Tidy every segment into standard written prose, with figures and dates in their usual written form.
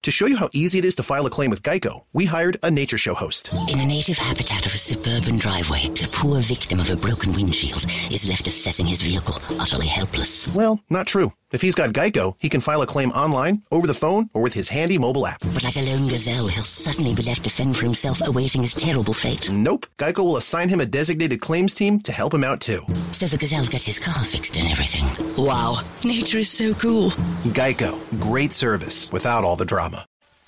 To show you how easy it is to file a claim with Geico, we hired a nature show host. In the native habitat of a suburban driveway, the poor victim of a broken windshield is left assessing his vehicle, utterly helpless. Well, not true. If he's got Geico, he can file a claim online, over the phone, or with his handy mobile app. But like a lone gazelle, he'll suddenly be left to fend for himself, awaiting his terrible fate. Nope. Geico will assign him a designated claims team to help him out, too. So the gazelle gets his car fixed and everything. Wow, nature is so cool. Geico. Great service without all the drama.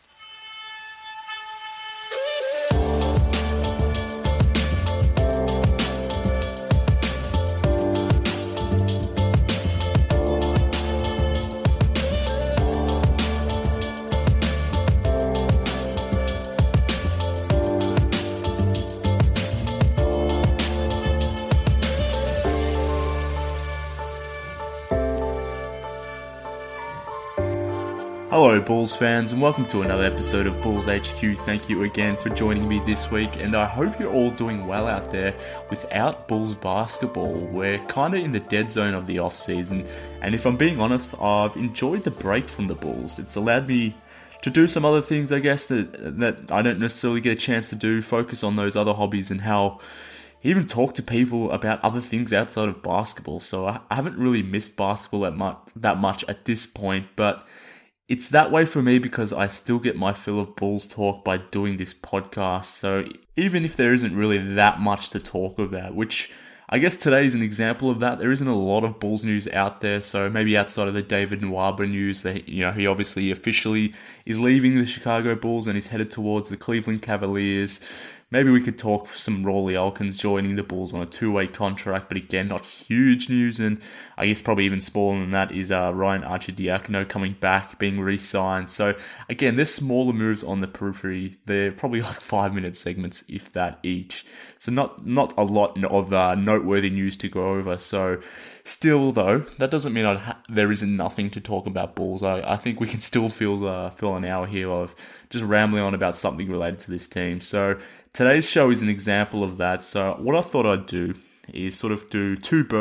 Hello Bulls fans and welcome to another episode of Bulls HQ. Thank you again for joining me this week, and I hope you're all doing well out there without Bulls basketball. We're kind of in the dead zone of the off season, and if I'm being honest, I've enjoyed the break from the Bulls. It's allowed me to do some other things, I guess, that I don't necessarily get a chance to do, focus on those other hobbies and how even talk to people about other things outside of basketball. So I haven't really missed basketball that much at this point, but it's that way for me because I still get my fill of Bulls talk by doing this podcast. So even if there isn't really that much to talk about, which I guess today is an example of that, there isn't a lot of Bulls news out there. So maybe outside of the David Nwaba news, that he obviously officially is leaving the Chicago Bulls and is headed towards the Cleveland Cavaliers. Maybe we could talk some Rawley Elkins joining the Bulls on a two-way contract, but again, not huge news. And I guess probably even smaller than that is Ryan Arcidiacono coming back, being re-signed. So again, there's smaller moves on the periphery. They're probably like 5-minute segments, if that, each. So not a lot of noteworthy news to go over. So still, though, that doesn't mean there isn't nothing to talk about Bulls. I think we can still fill an hour here of just rambling on about something related to this team. So today's show is an example of that. So what I thought I'd do is sort of do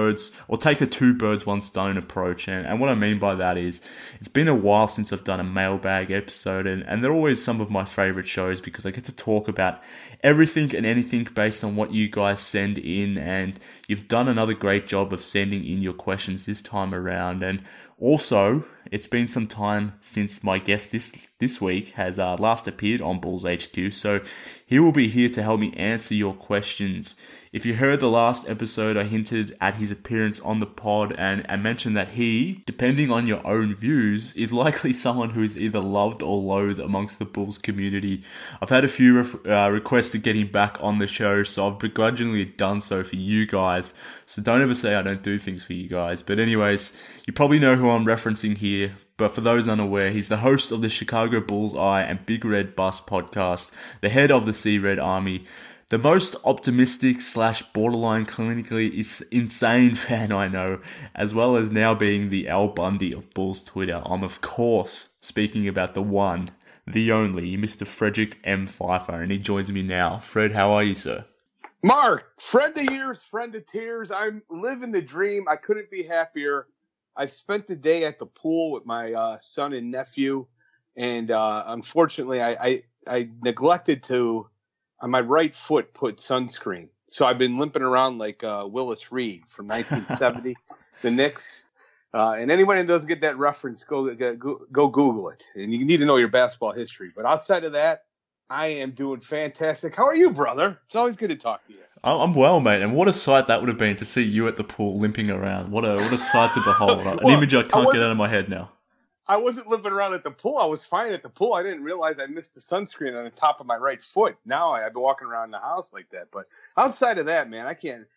take a two birds, one stone approach. And what I mean by that is it's been a while since I've done a mailbag episode, and they're always some of my favorite shows because I get to talk about everything and anything based on what you guys send in, and you've done another great job of sending in your questions this time around. And also, it's been some time since my guest this week has last appeared on Bulls HQ, so he will be here to help me answer your questions. If you heard the last episode, I hinted at his appearance on the pod and mentioned that he, depending on your own views, is likely someone who is either loved or loathed amongst the Bulls community. I've had a few requests to get him back on the show, so I've begrudgingly done so for you guys. So don't ever say I don't do things for you guys. But anyways, you probably know who I'm referencing here. But for those unaware, he's the host of the Chicago Bulls Eye and Big Red Bus podcast, the head of the Sea Red Army, the most optimistic / borderline clinically insane fan I know, as well as now being the Al Bundy of Bulls Twitter. I'm of course speaking about the one, the only, Mr. Frederick M. Pfeiffer, and he joins me now. Fred, how are you, sir? Mark, friend of years, friend of tears. I'm living the dream. I couldn't be happier. I've spent the day at the pool with my son and nephew, and unfortunately, I neglected to, on my right foot, put sunscreen. So I've been limping around like Willis Reed from 1970, the Knicks. And anyone who doesn't get that reference, go Google it. And you need to know your basketball history. But outside of that, I am doing fantastic. How are you, brother? It's always good to talk to you. I'm well, mate. And what a sight that would have been to see you at the pool limping around. What a sight to behold. An image I can't get out of my head now. I wasn't limping around at the pool. I was fine at the pool. I didn't realize I missed the sunscreen on the top of my right foot. Now I've been walking around the house like that. But outside of that, man,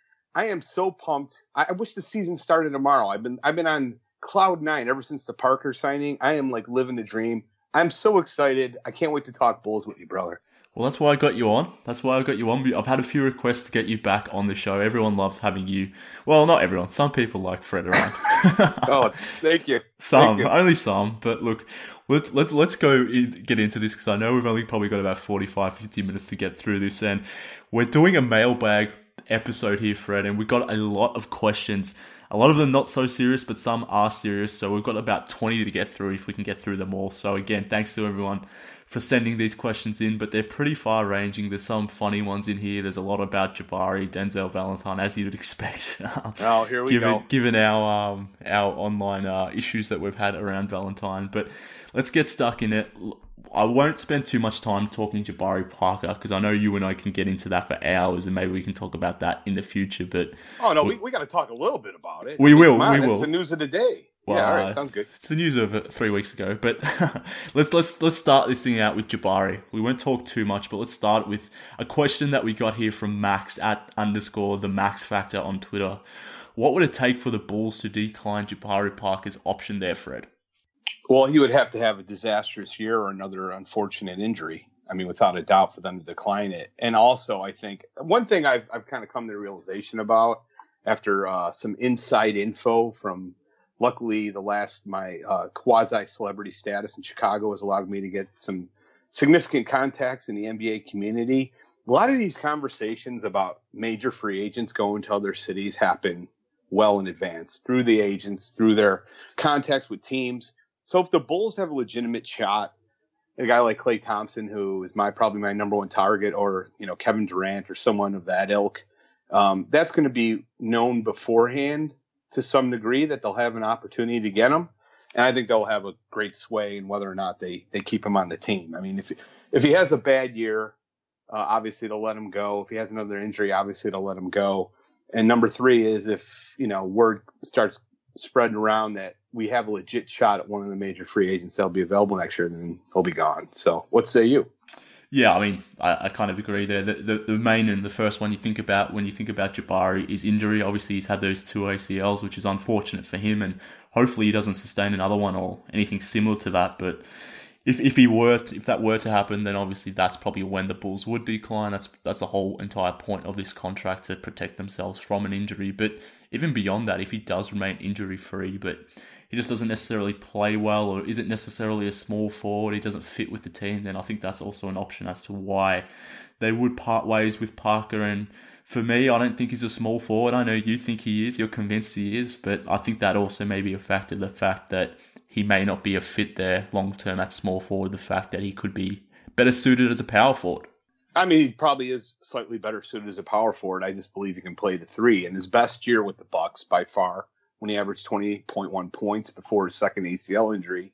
I am so pumped. I wish the season started tomorrow. I've been on cloud nine ever since the Parker signing. I am like living the dream. I'm so excited. I can't wait to talk Bulls with you, brother. Well, that's why I got you on. I've had a few requests to get you back on the show. Everyone loves having you. Well, not everyone. Some people like Fred around. Oh, thank you. Only some. But look, let's get into this because I know we've only probably got about 45, 50 minutes to get through this. And we're doing a mailbag episode here, Fred, and we've got a lot of questions. A lot of them not so serious, but some are serious. So we've got about 20 to get through if we can get through them all. So again, thanks to everyone for sending these questions in, but they're pretty far-ranging. There's some funny ones in here. There's a lot about Jabari, Denzel Valentine, as you'd expect. Here we go. Given our online issues that we've had around Valentine. But let's get stuck in it. I won't spend too much time talking Jabari Parker because I know you and I can get into that for hours, and maybe we can talk about that in the future. But we got to talk a little bit about it. We will. It's the news of the day. Well, all right, sounds good. It's the news of 3 weeks ago, but let's start this thing out with Jabari. We won't talk too much, but let's start with a question that we got here from Max at _ the Max Factor on Twitter. What would it take for the Bulls to decline Jabari Parker's option there, Fred? Well, he would have to have a disastrous year or another unfortunate injury. I mean, without a doubt, for them to decline it. And also, I think one thing I've kind of come to the realization about after some inside info from, luckily, my quasi-celebrity status in Chicago has allowed me to get some significant contacts in the NBA community. A lot of these conversations about major free agents going to other cities happen well in advance through the agents, through their contacts with teams. So if the Bulls have a legitimate shot, a guy like Klay Thompson, who is probably my number one target, or Kevin Durant or someone of that ilk, that's going to be known beforehand to some degree that they'll have an opportunity to get him. And I think they'll have a great sway in whether or not they keep him on the team. I mean, if he has a bad year, obviously they'll let him go. If he has another injury, obviously they'll let him go. And number three is if, word starts spreading around that we have a legit shot at one of the major free agents that'll be available next year, then he'll be gone. So what say you? Yeah, I mean, I kind of agree there. The main and the first one you think about when you think about Jabari is injury. Obviously, he's had those 2 ACLs, which is unfortunate for him, and hopefully he doesn't sustain another one or anything similar to that. But if that were to happen, then obviously that's probably when the Bulls would decline. That's the whole entire point of this contract, to protect themselves from an injury. But even beyond that, if he does remain injury-free, but he just doesn't necessarily play well or isn't necessarily a small forward, he doesn't fit with the team, then I think that's also an option as to why they would part ways with Parker. And for me, I don't think he's a small forward. I know you think he is, you're convinced he is, but I think that also may be a factor, the fact that he may not be a fit there long-term at small forward, the fact that he could be better suited as a power forward. I mean, he probably is slightly better suited as a power forward. I just believe he can play the three. And his best year with the Bucks by far, when he averaged 20.1 points before his second ACL injury,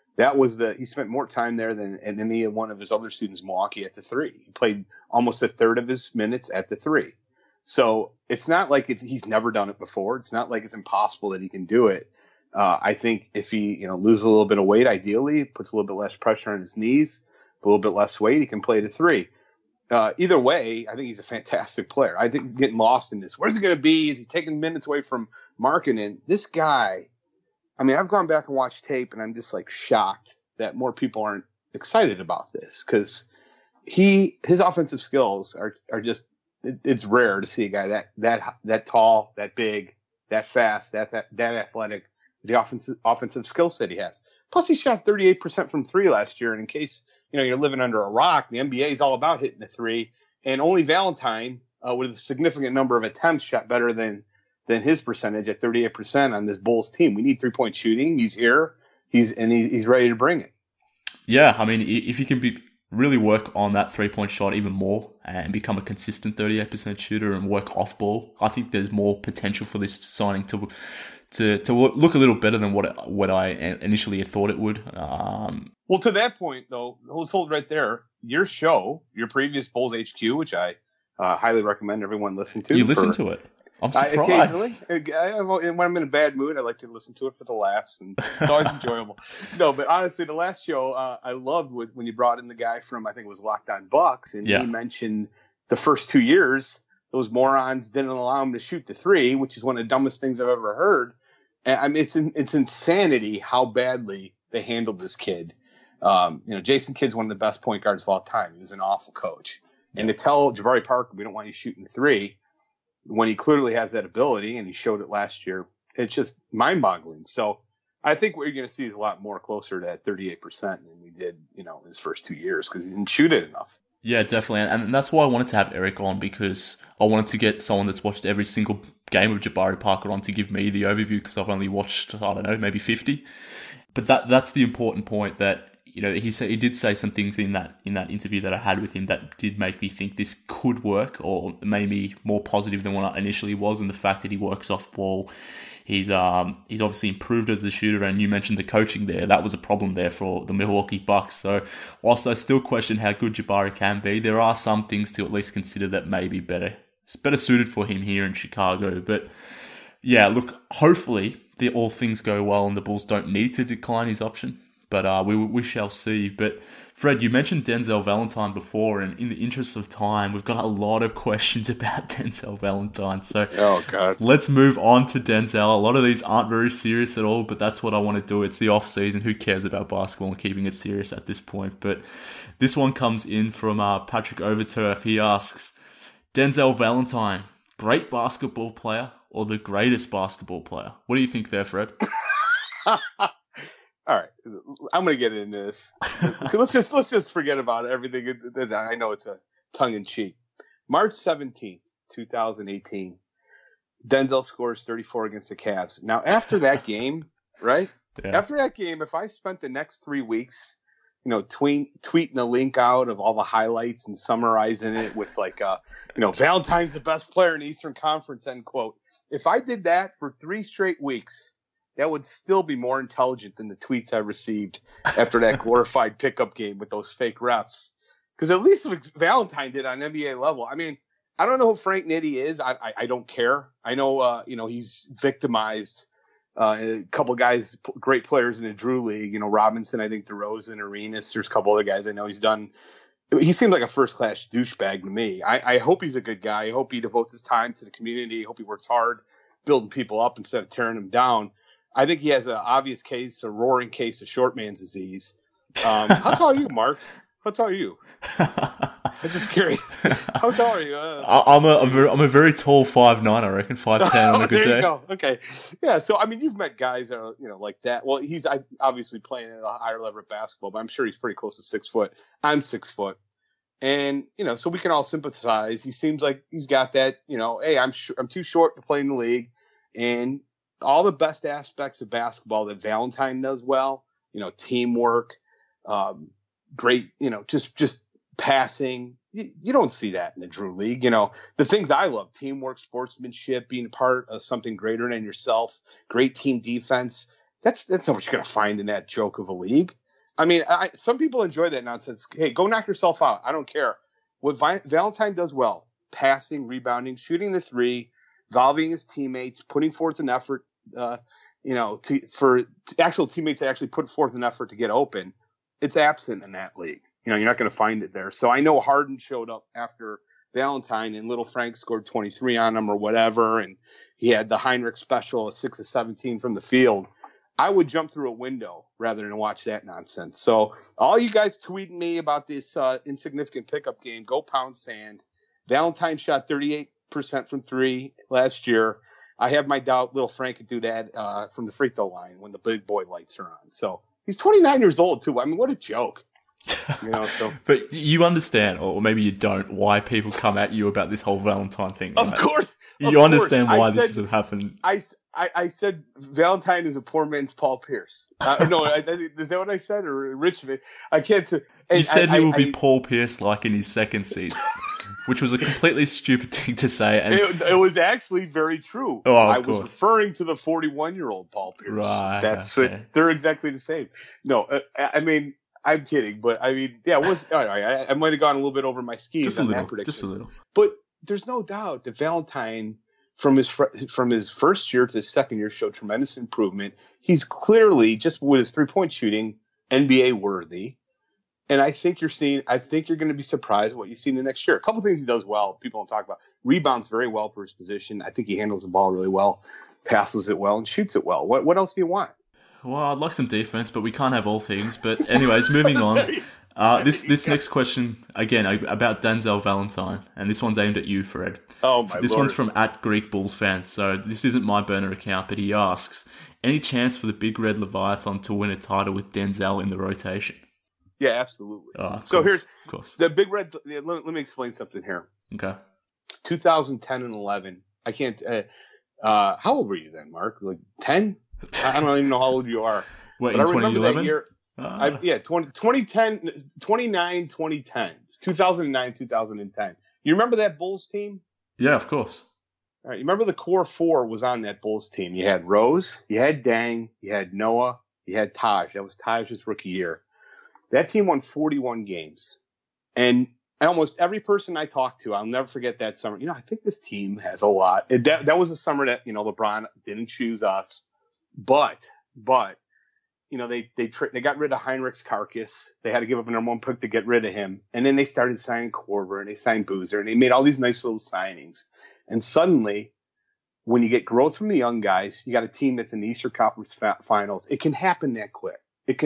he spent more time there than any one of his other students in Milwaukee at the three. He played almost a third of his minutes at the three. So it's not like he's never done it before. It's not like it's impossible that he can do it. I think if he loses a little bit of weight, ideally puts a little bit less pressure on his knees, a little bit less weight, he can play the three. Either way, I think he's a fantastic player. I think getting lost in this. Where's he going to be? Is he taking minutes away from Markkanen? This guy, I mean, I've gone back and watched tape, and I'm just shocked that more people aren't excited about this, because his offensive skills are just, it's rare to see a guy that tall, that big, that fast, that athletic, the offensive skill set he has. Plus, he shot 38% from three last year, and in case you're living under a rock, the NBA is all about hitting the three, and only Valentine, with a significant number of attempts, shot better than his percentage at 38% on this Bulls team. We need 3-point shooting. He's here. He's ready to bring it. Yeah, I mean, if you can really work on that 3-point shot even more and become a consistent 38% shooter and work off ball, I think there's more potential for this signing to look a little better than what I initially thought it would. Well, to that point, though, let's hold right there. Your show, your previous Bulls HQ, which I highly recommend everyone listen to. You listen to it? I'm surprised. Occasionally, when I'm in a bad mood, I like to listen to it for the laughs, and it's always enjoyable. No, but honestly, the last show I loved when you brought in the guy from, I think it was Locked On Bucks, and he mentioned the first 2 years, those morons didn't allow him to shoot the three, which is one of the dumbest things I've ever heard. And I mean, it's insanity how badly they handled this kid. Jason Kidd's one of the best point guards of all time. He was an awful coach. And to tell Jabari Parker, we don't want you shooting the three, when he clearly has that ability, and he showed it last year, it's just mind-boggling. So I think what you're going to see is a lot more closer to that 38% than we did, in his first 2 years, because he didn't shoot it enough. Yeah, definitely. And that's why I wanted to have Eric on, because I wanted to get someone that's watched every single game of Jabari Parker on to give me the overview because I've only watched, I don't know, maybe 50. But that's the important point that, he did say some things in that interview that I had with him that did make me think this could work, or maybe more positive than what I initially was. And the fact that he works off ball, he's obviously improved as a shooter. And you mentioned the coaching there; that was a problem there for the Milwaukee Bucks. So whilst I still question how good Jabari can be, there are some things to at least consider that may be better suited for him here in Chicago. But yeah, look, hopefully all things go well and the Bulls don't need to decline his option. But we shall see. But Fred, you mentioned Denzel Valentine before, and in the interest of time, we've got a lot of questions about Denzel Valentine. So let's move on to Denzel. A lot of these aren't very serious at all, but that's what I want to do. It's the off season. Who cares about basketball and keeping it serious at this point? But this one comes in from Patrick Overturf. He asks, Denzel Valentine, great basketball player or the greatest basketball player? What do you think there, Fred? All right, I'm going to get into this. let's just forget about everything. I know it's a tongue-in-cheek. March 17th, 2018, Denzel scores 34 against the Cavs. Now, after that game, right? Yeah. After that game, if I spent the next 3 weeks, tweeting a link out of all the highlights and summarizing it with Valentine's the best player in the Eastern Conference, end quote. If I did that for 3 straight weeks, that would still be more intelligent than the tweets I received after that glorified pickup game with those fake refs. Because at least Valentine did on NBA level. I mean, I don't know who Frank Nitti is. I don't care. I know, he's victimized a couple of guys, great players in the Drew League. Robinson, I think DeRozan, Arenas. There's a couple other guys I know he's done. He seems like a first-class douchebag to me. I hope he's a good guy. I hope he devotes his time to the community. I hope he works hard building people up instead of tearing them down. I think he has an obvious case, a roaring case of short man's disease. How tall are you, Mark? How tall are you? I'm just curious. How tall are you? I'm a very tall 5'9", I reckon, 5'10" on a good day. There you go. Okay. Yeah, so, I mean, you've met guys that are, like that. Well, he's obviously playing at a higher level of basketball, but I'm sure he's pretty close to 6 foot. I'm 6 foot. And, so we can all sympathize. He seems like he's got that, hey, I'm too short to play in the league. And all the best aspects of basketball that Valentine does well, teamwork, great, just passing. You don't see that in the Drew League. The things I love, teamwork, sportsmanship, being part of something greater than yourself, great team defense. That's not what you're going to find in that joke of a league. I mean, some people enjoy that nonsense. Hey, go knock yourself out. I don't care. What Valentine does well, passing, rebounding, shooting the three, involving his teammates, putting forth an effort, for actual teammates to actually put forth an effort to get open. It's absent in that league. You're not going to find it there. So I know Harden showed up after Valentine and Little Frank scored 23 on him or whatever. And he had the Heinrich special, a 6 of 17 from the field. I would jump through a window rather than watch that nonsense. So all you guys tweeting me about this insignificant pickup game, go pound sand. Valentine shot 38% from 3 last year. I have my doubt Little Frank could do that from the free throw line when the big boy lights are on. So he's 29 years old too. I mean, what a joke. So. But you understand, or maybe you don't, why people come at you about this whole Valentine thing. Right? Of course. You understand why this has happened. I said Valentine is a poor man's Paul Pierce. No, is that what I said? Or Richmond? I can't say. You said he will be Paul Pierce like in his second season. Which was a completely stupid thing to say. And it was actually very true. Oh, I was referring to the 41-year-old Paul Pierce. Right. They're exactly the same. No, I mean, I'm kidding. But, I mean, yeah, I might have gone a little bit over my skis on that prediction. Just a little. But there's no doubt that Valentine, from his first year to his second year, showed tremendous improvement. He's clearly, just with his three-point shooting, NBA worthy. And I think you're going to be surprised what you see in the next year. A couple things he does well, people don't talk about. Rebounds very well for his position. I think he handles the ball really well, passes it well, and shoots it well. What else do you want? Well, I'd like some defense, but we can't have all things. But anyways, moving on. This next question, again, about Denzel Valentine. And this one's aimed at you, Fred. Oh, my This Lord. one's from @GreekBullsFan. So this isn't my burner account, but he asks, any chance for the Big Red Leviathan to win a title with Denzel in the rotation? Yeah, absolutely. So here's of course. The Big Red. Let me explain something here. Okay. 2010 and 11. I can't. How old were you then, Mark? Like 10? I don't even know how old you are. What, but in I remember 2011? that year. 2010, 2010, 2009, 2010. You remember that Bulls team? Yeah, of course. All right, you remember the core four was on that Bulls team. You had Rose, you had Dang, you had Noah, you had Taj. That was Taj's rookie year. That team won 41 games. And almost every person I talked to, I'll never forget that summer. I think this team has a lot. That was a summer that, LeBron didn't choose us. But they got rid of Heinrich's carcass. They had to give up a number one pick to get rid of him. And then they started signing Korver and they signed Boozer and they made all these nice little signings. And suddenly, when you get growth from the young guys, you got a team that's in the Eastern Conference Finals. It can happen that quick.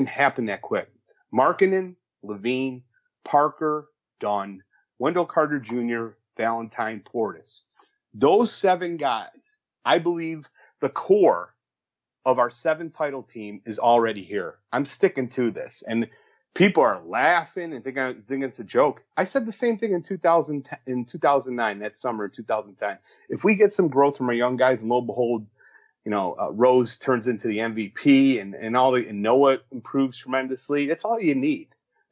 Markkanen, Levine, Parker, Dunn, Wendell Carter Jr., Valentine, Portis. Those 7 guys, I believe the core of our 7 title team is already here. I'm sticking to this. And people are laughing and thinking it's a joke. I said the same thing in 2009, that summer in 2010. If we get some growth from our young guys, and lo and behold, Rose turns into the MVP and Noah improves tremendously. That's all you need.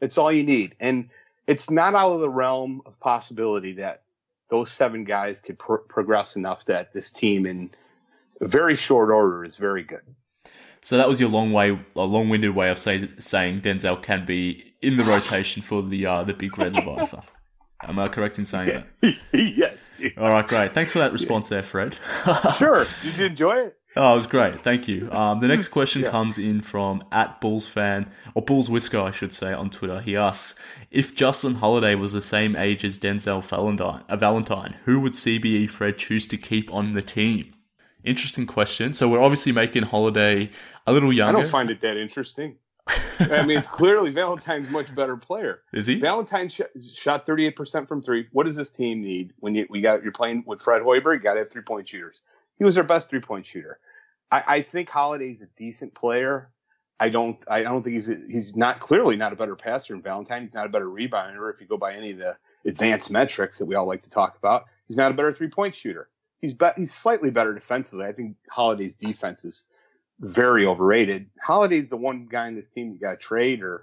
And it's not out of the realm of possibility that those 7 guys could progress enough that this team in a very short order is very good. So that was your long-winded way of saying Denzel can be in the rotation for the Big Red Leviathan. Am I correct in saying that? Yes. All right, great. Thanks for that response there, Fred. Sure. Did you enjoy it? Oh, it was great. Thank you. The next question comes in from @BullsFan, or Bulls Whisker, I should say, on Twitter. He asks, if Justin Holiday was the same age as Denzel Valentine, who would CBE Fred choose to keep on the team? Interesting question. So we're obviously making Holiday a little younger. I don't find it that interesting. I mean, it's clearly Valentine's a much better player. Is he? Valentine shot 38% from 3. What does this team need when you're playing with Fred Hoiberg? You got to have 3-point shooters. He was our best 3-point shooter. I think Holiday's a decent player. I don't think he's not clearly not a better passer than Valentine. He's not a better rebounder if you go by any of the advanced metrics that we all like to talk about. He's not a better 3-point shooter. He's slightly better defensively. I think Holiday's defense is very overrated. Holiday's the one guy in this team you got to trade, or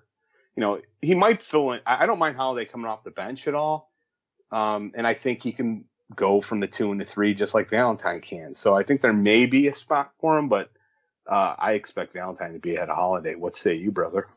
he might fill in. I don't mind Holiday coming off the bench at all, and I think he can go from the 2 and the 3 just like Valentine can. So I think there may be a spot for him, but I expect Valentine to be ahead of Holiday. What say you, brother?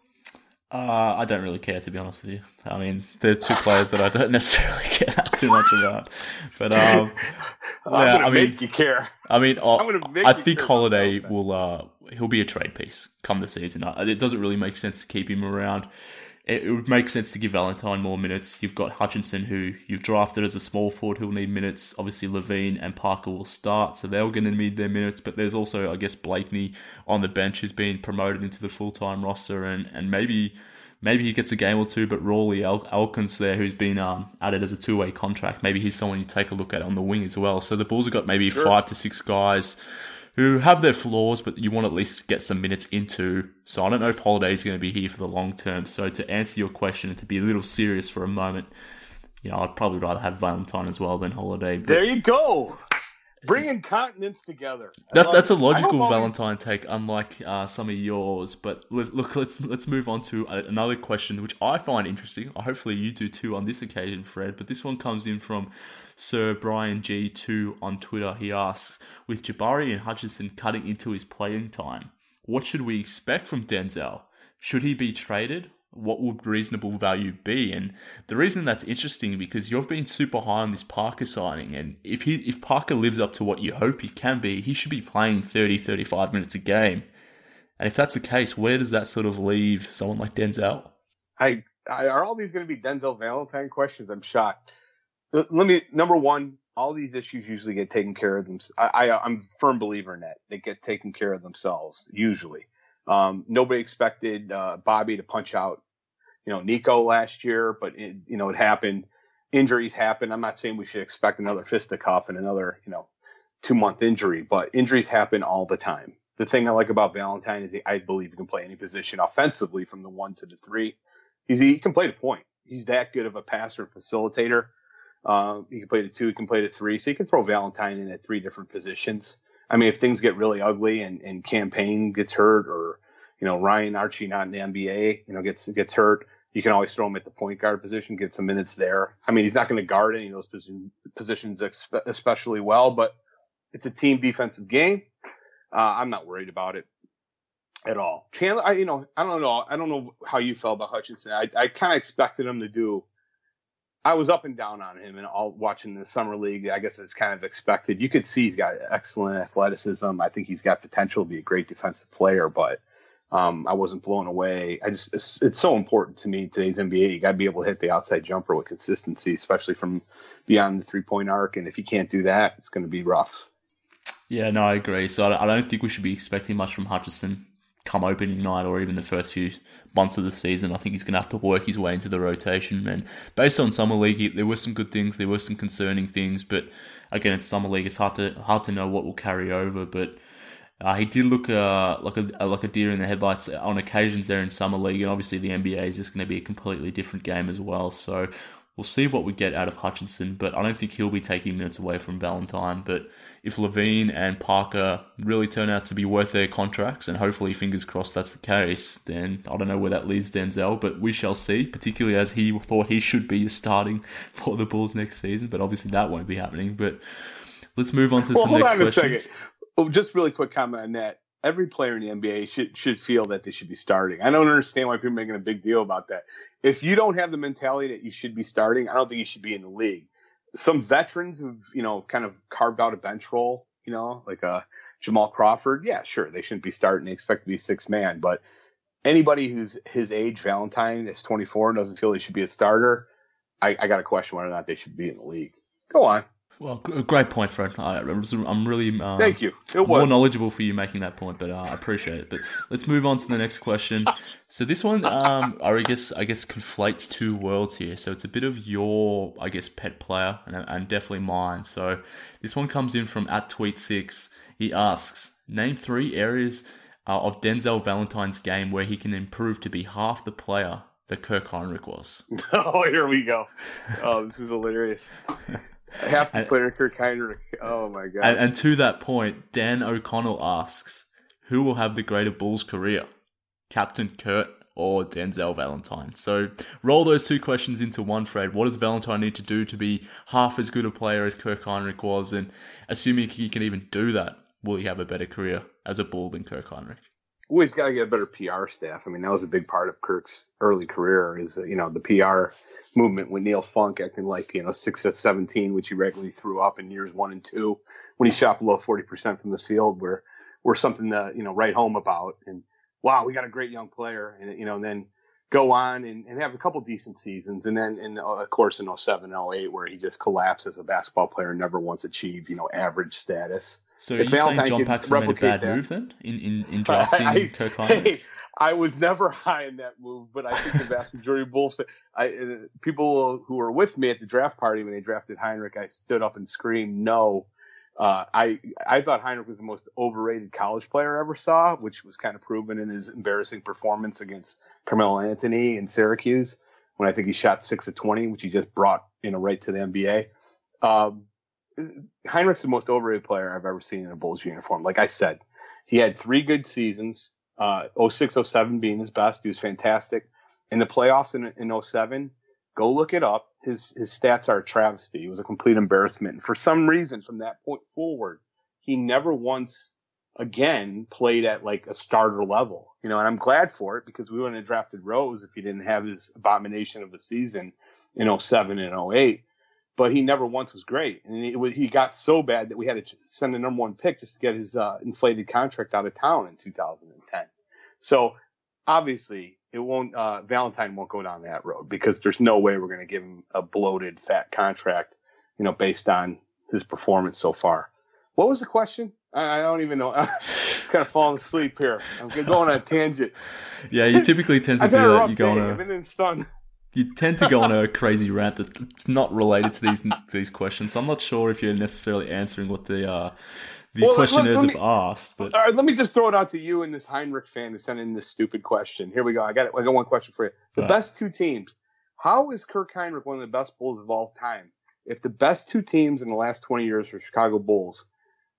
I don't really care, to be honest with you. I mean, they're 2 players that I don't necessarily care too much about. But I'm gonna make you care. I mean, I think Holiday he'll be a trade piece come the season. It doesn't really make sense to keep him around. It would make sense to give Valentine more minutes. You've got Hutchinson, who you've drafted as a small forward, who'll need minutes. Obviously, Levine and Parker will start, so they're going to need their minutes. But there's also, I guess, Blakeney on the bench who's been promoted into the full-time roster, and maybe he gets a game or 2. But Rawley Elkins there, who's been added as a 2-way contract, maybe he's someone you take a look at on the wing as well. So the Bulls have got maybe 5 to 6 guys who have their flaws, but you want to at least get some minutes into. So I don't know if Holiday's going to be here for the long term. So to answer your question and to be a little serious for a moment, I'd probably rather have Valentine as well than Holiday. There you go. Bringing continents together. That's a logical Valentine take, unlike some of yours. But look, let's move on to another question, which I find interesting. Hopefully you do too on this occasion, Fred. But this one comes in from Sir Brian G2 on Twitter. He asks, with Jabari and Hutchinson cutting into his playing time, what should we expect from Denzel? Should he be traded? What would reasonable value be? And the reason that's interesting, because you've been super high on this Parker signing, and if Parker lives up to what you hope he can be, he should be playing 30-35 minutes a game. And if that's the case, where does that sort of leave someone like Denzel? Are all these going to be Denzel Valentine questions? I'm shocked. Number one, all these issues usually get taken care of themselves. I'm a firm believer in that. They get taken care of themselves, usually. Nobody expected Bobby to punch out, Nico last year, but it happened. Injuries happen. I'm not saying we should expect another fisticuff and another, 2-month injury, but injuries happen all the time. The thing I like about Valentine is I believe he can play any position offensively from the 1 to the 3. He can play the point. He's that good of a passer and facilitator. He can play the 2, he can play the 3, so you can throw Valentine in at 3 different positions. I mean, if things get really ugly and Campaign gets hurt, or Ryan Archie not in the NBA, gets hurt, you can always throw him at the point guard position, get some minutes there. I mean, he's not going to guard any of those positions especially well, but it's a team defensive game. I'm not worried about it at all. Chandler, I don't know how you felt about Hutchinson. I kind of expected him to do. I was up and down on him, and all watching the summer league. I guess it's kind of expected. You could see he's got excellent athleticism. I think he's got potential to be a great defensive player, but I wasn't blown away. It's so important to me in today's NBA. You got to be able to hit the outside jumper with consistency, especially from beyond the 3-point arc. And if you can't do that, it's going to be rough. Yeah, no, I agree. So I don't think we should be expecting much from Hutchinson come opening night or even the first few months of the season. I think he's going to have to work his way into the rotation. And based on Summer League, there were some good things, there were some concerning things. But again, it's Summer League. It's hard to know what will carry over. But he did look like a deer in the headlights on occasions there in Summer League. And obviously the NBA is just going to be a completely different game as well. So we'll see what we get out of Hutchinson, but I don't think he'll be taking minutes away from Valentine. But if Levine and Parker really turn out to be worth their contracts, and hopefully, fingers crossed, that's the case, then I don't know where that leaves Denzel, but we shall see, particularly as he thought he should be starting for the Bulls next season, but obviously that won't be happening. But let's move on to some next questions. Hold on a second. Oh, just really quick comment on that. Every player in the NBA should feel that they should be starting. I don't understand why people are making a big deal about that. If you don't have the mentality that you should be starting, I don't think you should be in the league. Some veterans who've, kind of carved out a bench role, like Jamal Crawford. Yeah, sure, they shouldn't be starting. They expect to be sixth man. But anybody who's his age, Valentine, is 24 and doesn't feel he should be a starter, I got to question whether or not they should be in the league. Go on. Well, great point, Fred. I'm really thank you. More knowledgeable for you making that point, but I appreciate it. But let's move on to the next question. So this one, I guess conflates two worlds here. So it's a bit of your, pet player and definitely mine. So this one comes in from @tweet6. He asks, name 3 areas of Denzel Valentine's game where he can improve to be half the player that Kirk Hinrich was. Oh, here we go. Oh, this is hilarious. Half the player Kirk Hinrich. Oh my god! And to that point, Dan O'Connell asks, "Who will have the greater Bulls career, Captain Kurt or Denzel Valentine?" So roll those two questions into one, Fred. What does Valentine need to do to be half as good a player as Kirk Hinrich was? And assuming he can even do that, will he have a better career as a Bull than Kirk Hinrich? Well, he's got to get a better PR staff. I mean, that was a big part of Kirk's early career is, the PR movement with Neil Funk acting like, 6'17", which he regularly threw up in years 1 and 2 when he shot below 40% from the field were something to, write home about. And wow, we got a great young player. And then go on and have a couple decent seasons. And then, of course, in 07, 08, where he just collapsed as a basketball player and never once achieved, average status. So are you saying John Paxson made a bad move then in drafting Kirk Hinrich? Hey, I was never high in that move, but I think the vast majority of Bulls people who were with me at the draft party when they drafted Hinrich, I stood up and screamed no. I thought Hinrich was the most overrated college player I ever saw, which was kind of proven in his embarrassing performance against Carmelo Anthony in Syracuse when I think he shot 6 of 20, which he just brought right to the NBA. Heinrich's the most overrated player I've ever seen in a Bulls uniform. Like I said, he had 3 good seasons, 06, 07 being his best. He was fantastic. In the playoffs in 07, go look it up. His stats are a travesty. He was a complete embarrassment. And for some reason, from that point forward, he never once again played at like a starter level. And I'm glad for it because we wouldn't have drafted Rose if he didn't have his abomination of a season in 07 and 08. But he never once was great. And he got so bad that we had to send the number 1 pick just to get his inflated contract out of town in 2010. So obviously it won't, Valentine won't go down that road because there's no way we're going to give him a bloated fat contract, based on his performance so far. What was the question? I don't even know. I'm kind of falling asleep here. I'm going on a tangent. Yeah, you typically tend to do that. You go on I've been in the sun. You tend to go on a crazy rant that's not related to these questions. So I'm not sure if you're necessarily answering what the questioners have asked. But all right, let me just throw it out to you and this Hinrich fan who sent in this stupid question. Here we go. I got one question for you. The best 2 teams. How is Kirk Hinrich one of the best Bulls of all time? If the best 2 teams in the last 20 years are Chicago Bulls,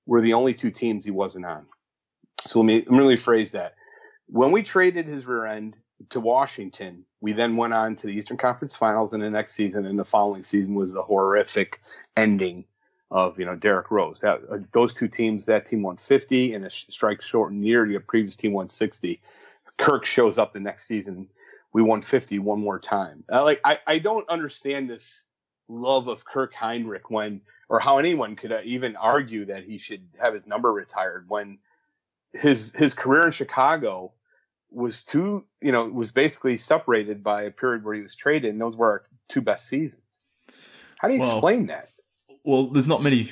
were the only two teams he wasn't on. So let me rephrase that. When we traded his rear end to Washington, we then went on to the Eastern Conference Finals in the next season, and the following season was the horrific ending of Derrick Rose. Those two teams, that team won 50 in a strike shortened year. The previous team won 60. Kirk shows up the next season. We won 50 one more time. I don't understand this love of Kirk Hinrich or how anyone could even argue that he should have his number retired when his career in Chicago was basically separated by a period where he was traded, and those were our two best seasons. How do you explain that? Well, there's not many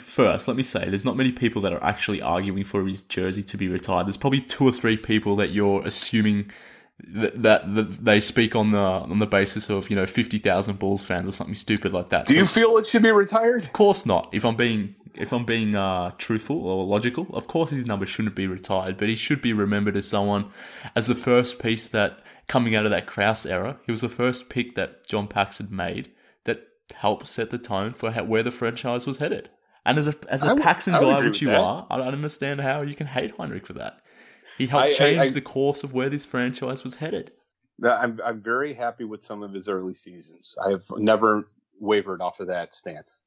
people that are actually arguing for his jersey to be retired. There's probably 2 or 3 people that you're assuming that they speak on the basis of 50,000 Bulls fans or something stupid like that. Do you feel it should be retired? Of course not. If I'm being truthful or logical, of course his number shouldn't be retired, but he should be remembered as the first piece that, coming out of that Krause era, he was the first pick that John Paxson made that helped set the tone for where the franchise was headed. And as a Paxson guy, which you are, I don't understand how you can hate Hinrich for that. He helped change the course of where this franchise was headed. I'm very happy with some of his early seasons. I have never wavered off of that stance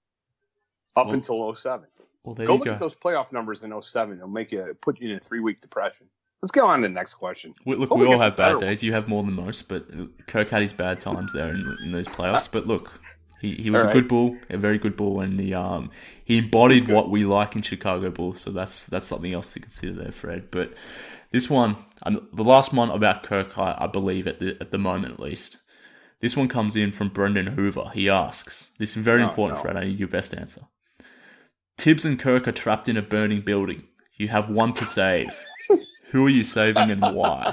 until 07. Well, there go you look go. at those playoff numbers in 07. It'll put you in a 3-week depression. Let's go on to the next question. We all have bad days. You have more than most, but Kirk had his bad times there in those playoffs. But look, he was a good Bull, a very good Bull, and he embodied what we like in Chicago Bulls. So that's something else to consider there, Fred. But this one, the last one about Kirk, I believe at the moment at least. This one comes in from Brendan Hoover. He asks, this is very important, Fred. I need your best answer. Tibbs and Kirk are trapped in a burning building. You have one to save. Who are you saving and why?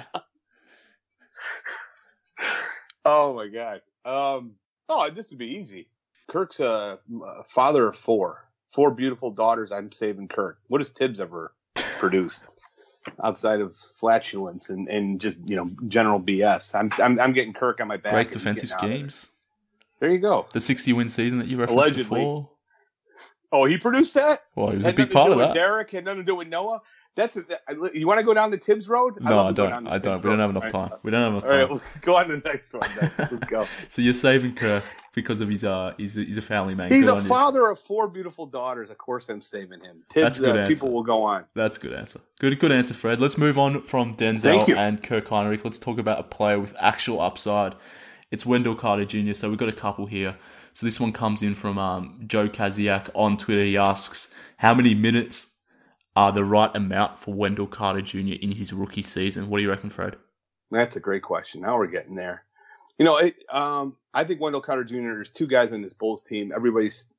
Oh my God. This would be easy. Kirk's a father of 4 beautiful daughters. I'm saving Kirk. What has Tibbs ever produced outside of flatulence and just general BS? I'm getting Kirk on my back. Great defensive schemes. There you go. The 60-win season that you referenced before. Oh, he produced that? Well, he was a big part of that. Derek had nothing to do with Noah. You want to go down the Tibbs road? No, I don't. We don't have enough time. We don't have enough time. All right, we'll go on to the next one then. Let's go. So you're saving Kirk because of he's a family man. He's a father of 4 beautiful daughters. Of course I'm saving him. Tibbs, people will go on. That's a good answer. Good answer, Fred. Let's move on from Denzel and Kirk Hinrich. Let's talk about a player with actual upside. It's Wendell Carter Jr., so we've got a couple here. So this one comes in from Joe Kaziak on Twitter. He asks, how many minutes are the right amount for Wendell Carter Jr. in his rookie season? What do you reckon, Fred? That's a great question. Now we're getting there. I think Wendell Carter Jr., there's 2 guys on this Bulls team. Everybody's,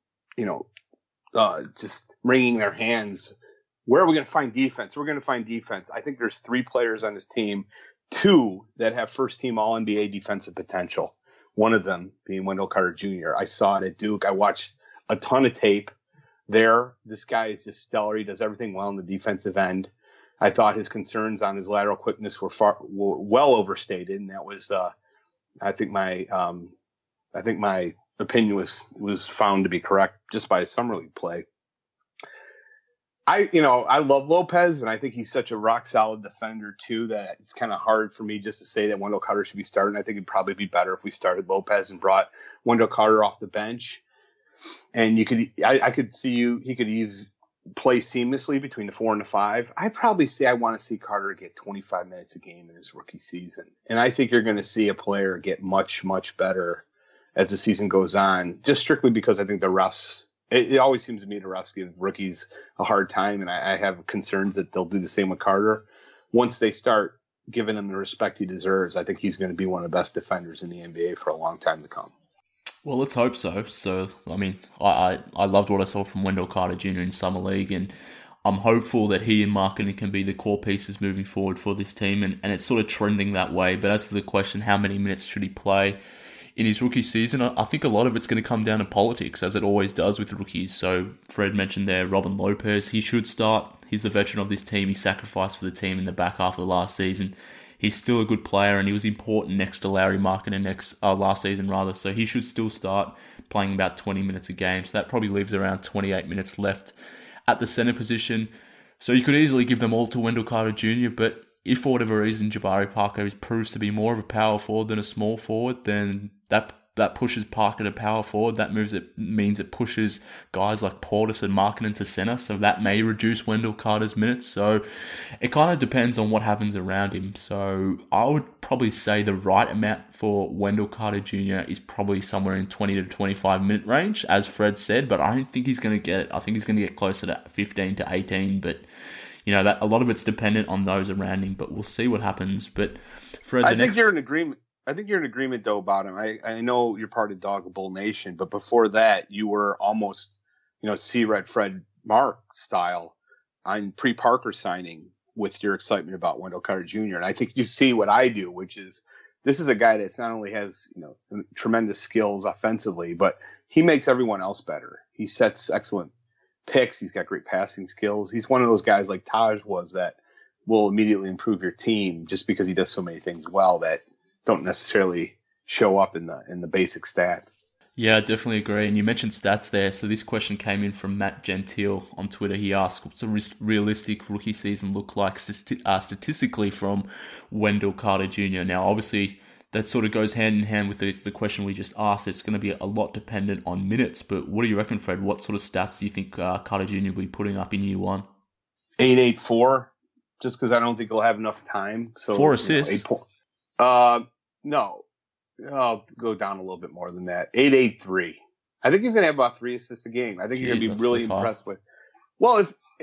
just wringing their hands. Where are we going to find defense? We're going to find defense. I think there's 3 players on this team, 2 that have first-team All-NBA defensive potential. One of them being Wendell Carter Jr. I saw it at Duke. I watched a ton of tape there. This guy is just stellar. He does everything well on the defensive end. I thought his concerns on his lateral quickness were well overstated, and that was, I think my opinion was found to be correct just by his summer league play. I love Lopez, and I think he's such a rock solid defender too that it's kind of hard for me just to say that Wendell Carter should be starting. I think it'd probably be better if we started Lopez and brought Wendell Carter off the bench. And I could see he could play seamlessly between the 4 and the 5. I'd probably say I want to see Carter get 25 minutes a game in his rookie season. And I think you're going to see a player get much, much better as the season goes on, just strictly because I think the refs, it always seems to me the refs give rookies a hard time. And I have concerns that they'll do the same with Carter. Once they start giving him the respect he deserves, I think he's going to be one of the best defenders in the NBA for a long time to come. Well, let's hope so. So, I mean, I loved what I saw from Wendell Carter Jr. in Summer League, and I'm hopeful that he and Markkanen can be the core pieces moving forward for this team, and it's sort of trending that way. But as to the question, how many minutes should he play in his rookie season, I think a lot of it's going to come down to politics, as it always does with rookies. So, Fred mentioned there, Robin Lopez, he should start. He's the veteran of this team. He sacrificed for the team in the back half of the last season. He's still a good player, and he was important next to Larry Markkanen last season, rather. So he should still start playing about 20 minutes a game. So that probably leaves around 28 minutes left at the center position. So you could easily give them all to Wendell Carter Jr., but if for whatever reason Jabari Parker proves to be more of a power forward than a small forward, then that pushes Parker to power forward. That means it pushes guys like Portis and Markkanen to center, so that may reduce Wendell Carter's minutes. So it kind of depends on what happens around him. So I would probably say the right amount for Wendell Carter Jr. is probably somewhere in 20 to 25 minute range, as Fred said, but I don't think he's going to get it. I think he's going to get closer to 15 to 18, but that a lot of it's dependent on those around him, but we'll see what happens. But Fred, I think you're in agreement. I think you're in agreement, though, about him. I know you're part of Dog Bull Nation, but before that, you were almost, C-Red Fred Mark style on pre-Parker signing with your excitement about Wendell Carter Jr. And I think you see what I do, which is this is a guy that's not only has, tremendous skills offensively, but he makes everyone else better. He sets excellent picks. He's got great passing skills. He's one of those guys like Taj was that will immediately improve your team just because he does so many things well that don't necessarily show up in the basic stats. Yeah, I definitely agree. And you mentioned stats there. So this question came in from Matt Gentile on Twitter. He asked, what's a realistic rookie season look like statistically from Wendell Carter Jr.? Now, obviously, that sort of goes hand in hand with the question we just asked. It's going to be a lot dependent on minutes. But what do you reckon, Fred? What sort of stats do you think Carter Jr. will be putting up in year one? 8.84, just because I don't think he'll have enough time. So 4 assists. No, I'll go down a little bit more than that. 8.83. I think he's going to have about 3 assists a game. I think you're going to be really impressed with. Well,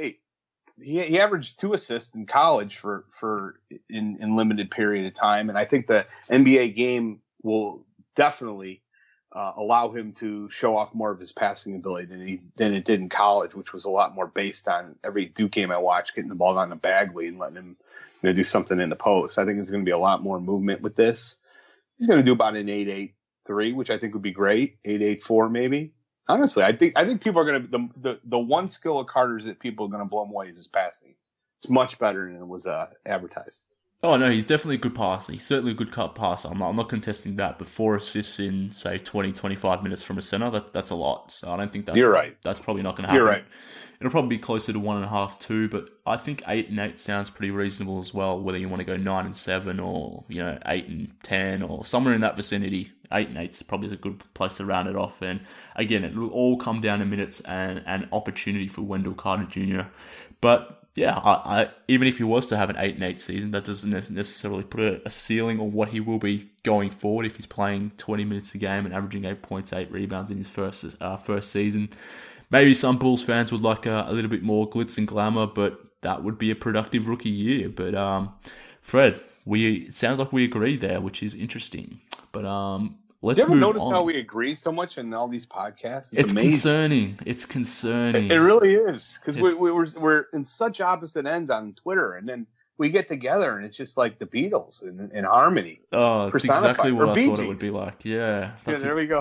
he averaged 2 assists in college for in limited period of time, and I think the NBA game will definitely allow him to show off more of his passing ability than it did in college, which was a lot more based on every Duke game I watched, getting the ball down to Bagley and letting him do something in the post. I think there's going to be a lot more movement with this. He's going to do about an 8.83, which I think would be great. 8.84 maybe. Honestly, I think people are going to the one skill of Carter's that people are going to blow him away is his passing. It's much better than it was advertised. Oh no, he's definitely a good passer. He's certainly a good cut passer. I'm not contesting that. But 4 assists in say 20, 25 minutes from a center, that's a lot. So I don't think that's You're right. That's probably not going to happen. You're right. It'll probably be closer to 1.5, 2, but I think 8 and 8 sounds pretty reasonable as well. Whether you want to go 9 and 7 or 8 and 10 or somewhere in that vicinity, 8 and 8 is probably a good place to round it off. And again, it will all come down to minutes and opportunity for Wendell Carter Jr. But yeah, I even if he was to have an 8 and 8 season, that doesn't necessarily put a ceiling on what he will be going forward if he's playing 20 minutes a game and averaging 8 points, 8 rebounds in his first season. Maybe some Bulls fans would like a little bit more glitz and glamour, but that would be a productive rookie year. But Fred, it sounds like we agree there, which is interesting. But let's move on. You ever notice how we agree so much in all these podcasts? It's concerning. It's concerning. It really is, because we're in such opposite ends on Twitter, and then we get together and it's just like the Beatles in harmony. Oh, it's exactly what I thought it would be like. Yeah. Yeah, there we go.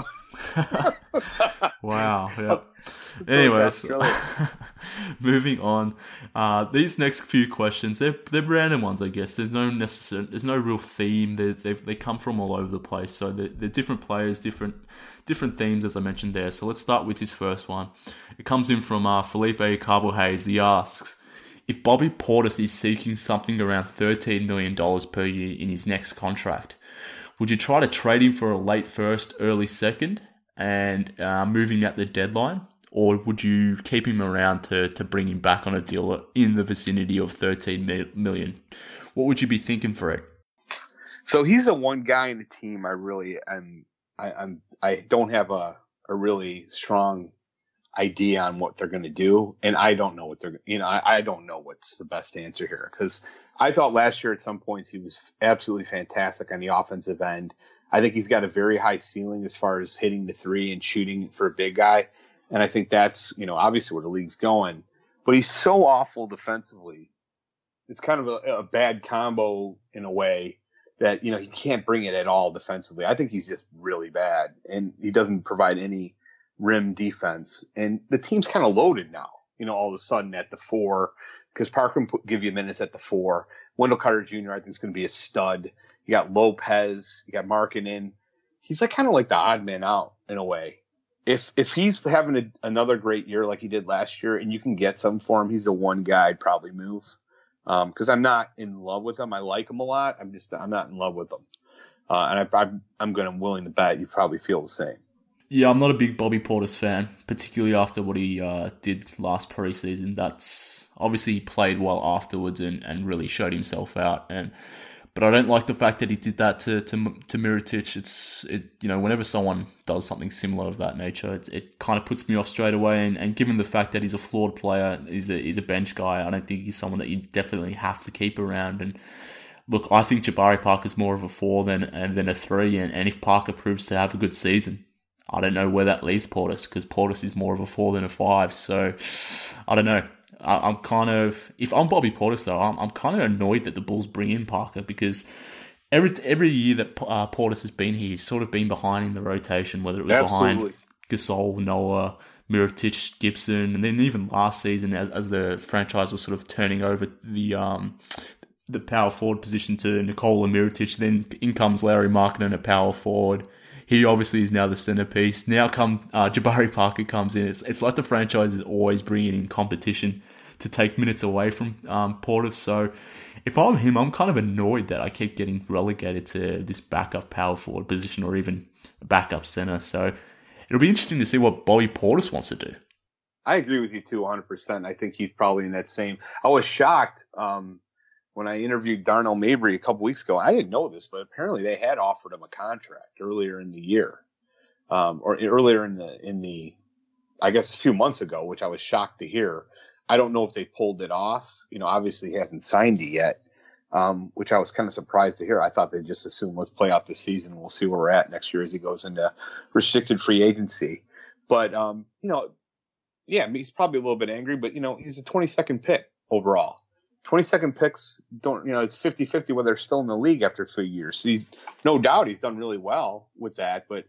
Wow. Yeah. Anyways, moving on. These next few questions, they're random ones, I guess. There's no real theme. They come from all over the place. So they're different players, different themes, as I mentioned there. So let's start with his first one. It comes in from Felipe Cabo Hayes. He asks, if Bobby Portis is seeking something around $13 million per year in his next contract, would you try to trade him for a late first, early second, and move him at the deadline? Or would you keep him around to bring him back on a deal in the vicinity of $13 million? What would you be thinking for it? So he's the one guy in the team I really I don't have a really strong idea on what they're going to do, and I don't know what I don't know what's the best answer here, because I thought last year at some points he was absolutely fantastic on the offensive end. I think he's got a very high ceiling as far as hitting the three and shooting for a big guy, and I think that's obviously where the league's going. But he's so awful defensively. It's kind of a bad combo in a way that he can't bring it at all defensively. I think he's just really bad, and he doesn't provide any rim defense, and the team's kind of loaded now, all of a sudden at the 4, because Parker can give you minutes at the 4. Wendell Carter Jr. I think is going to be a stud. You got Lopez, you got Markkanen. He's kind of like the odd man out in a way. if he's having another great year like he did last year, and you can get some for him, he's the one guy I'd probably move. Because I'm not in love with him. I like him a lot. I'm not in love with him. And I'm willing to bet you probably feel the same. Yeah, I'm not a big Bobby Portis fan, particularly after what he did last preseason. That's obviously he played well afterwards and really showed himself out. But I don't like the fact that he did that to Mirotic. Whenever someone does something similar of that nature, it kind of puts me off straight away. And given the fact that he's a flawed player, he's a bench guy, I don't think he's someone that you definitely have to keep around. And look, I think Jabari Parker's more of a 4 than a 3. And if Parker proves to have a good season, I don't know where that leaves Portis, because Portis is more of a 4 than a 5. So I don't know. I'm kind of, if I'm Bobby Portis though, I'm kind of annoyed that the Bulls bring in Parker, because every year that Portis has been here, he's sort of been behind in the rotation, whether it was behind Gasol, Noah, Mirotic, Gibson, and then even last season as the franchise was sort of turning over the power forward position to Nikola Mirotic, then in comes Larry Markkinen at power forward. He obviously is now the centerpiece. Now Jabari Parker comes in. It's like the franchise is always bringing in competition to take minutes away from Portis. So if I'm him, I'm kind of annoyed that I keep getting relegated to this backup power forward position or even backup center. So it'll be interesting to see what Bobby Portis wants to do. I agree with you too, 100%. I think he's probably in that same. I was shocked when I interviewed Darnell Mabry a couple weeks ago. I didn't know this, but apparently they had offered him a contract earlier in the year, or earlier in the, I guess a few months ago, which I was shocked to hear. I don't know if they pulled it off. Obviously he hasn't signed it yet, which I was kind of surprised to hear. I thought they'd just assume let's play out the season. We'll see where we're at next year as he goes into restricted free agency. But, yeah, he's probably a little bit angry, but, he's a 22nd pick overall. 22nd picks don't, it's 50-50 whether they're still in the league after 3 years. So no doubt he's done really well with that. But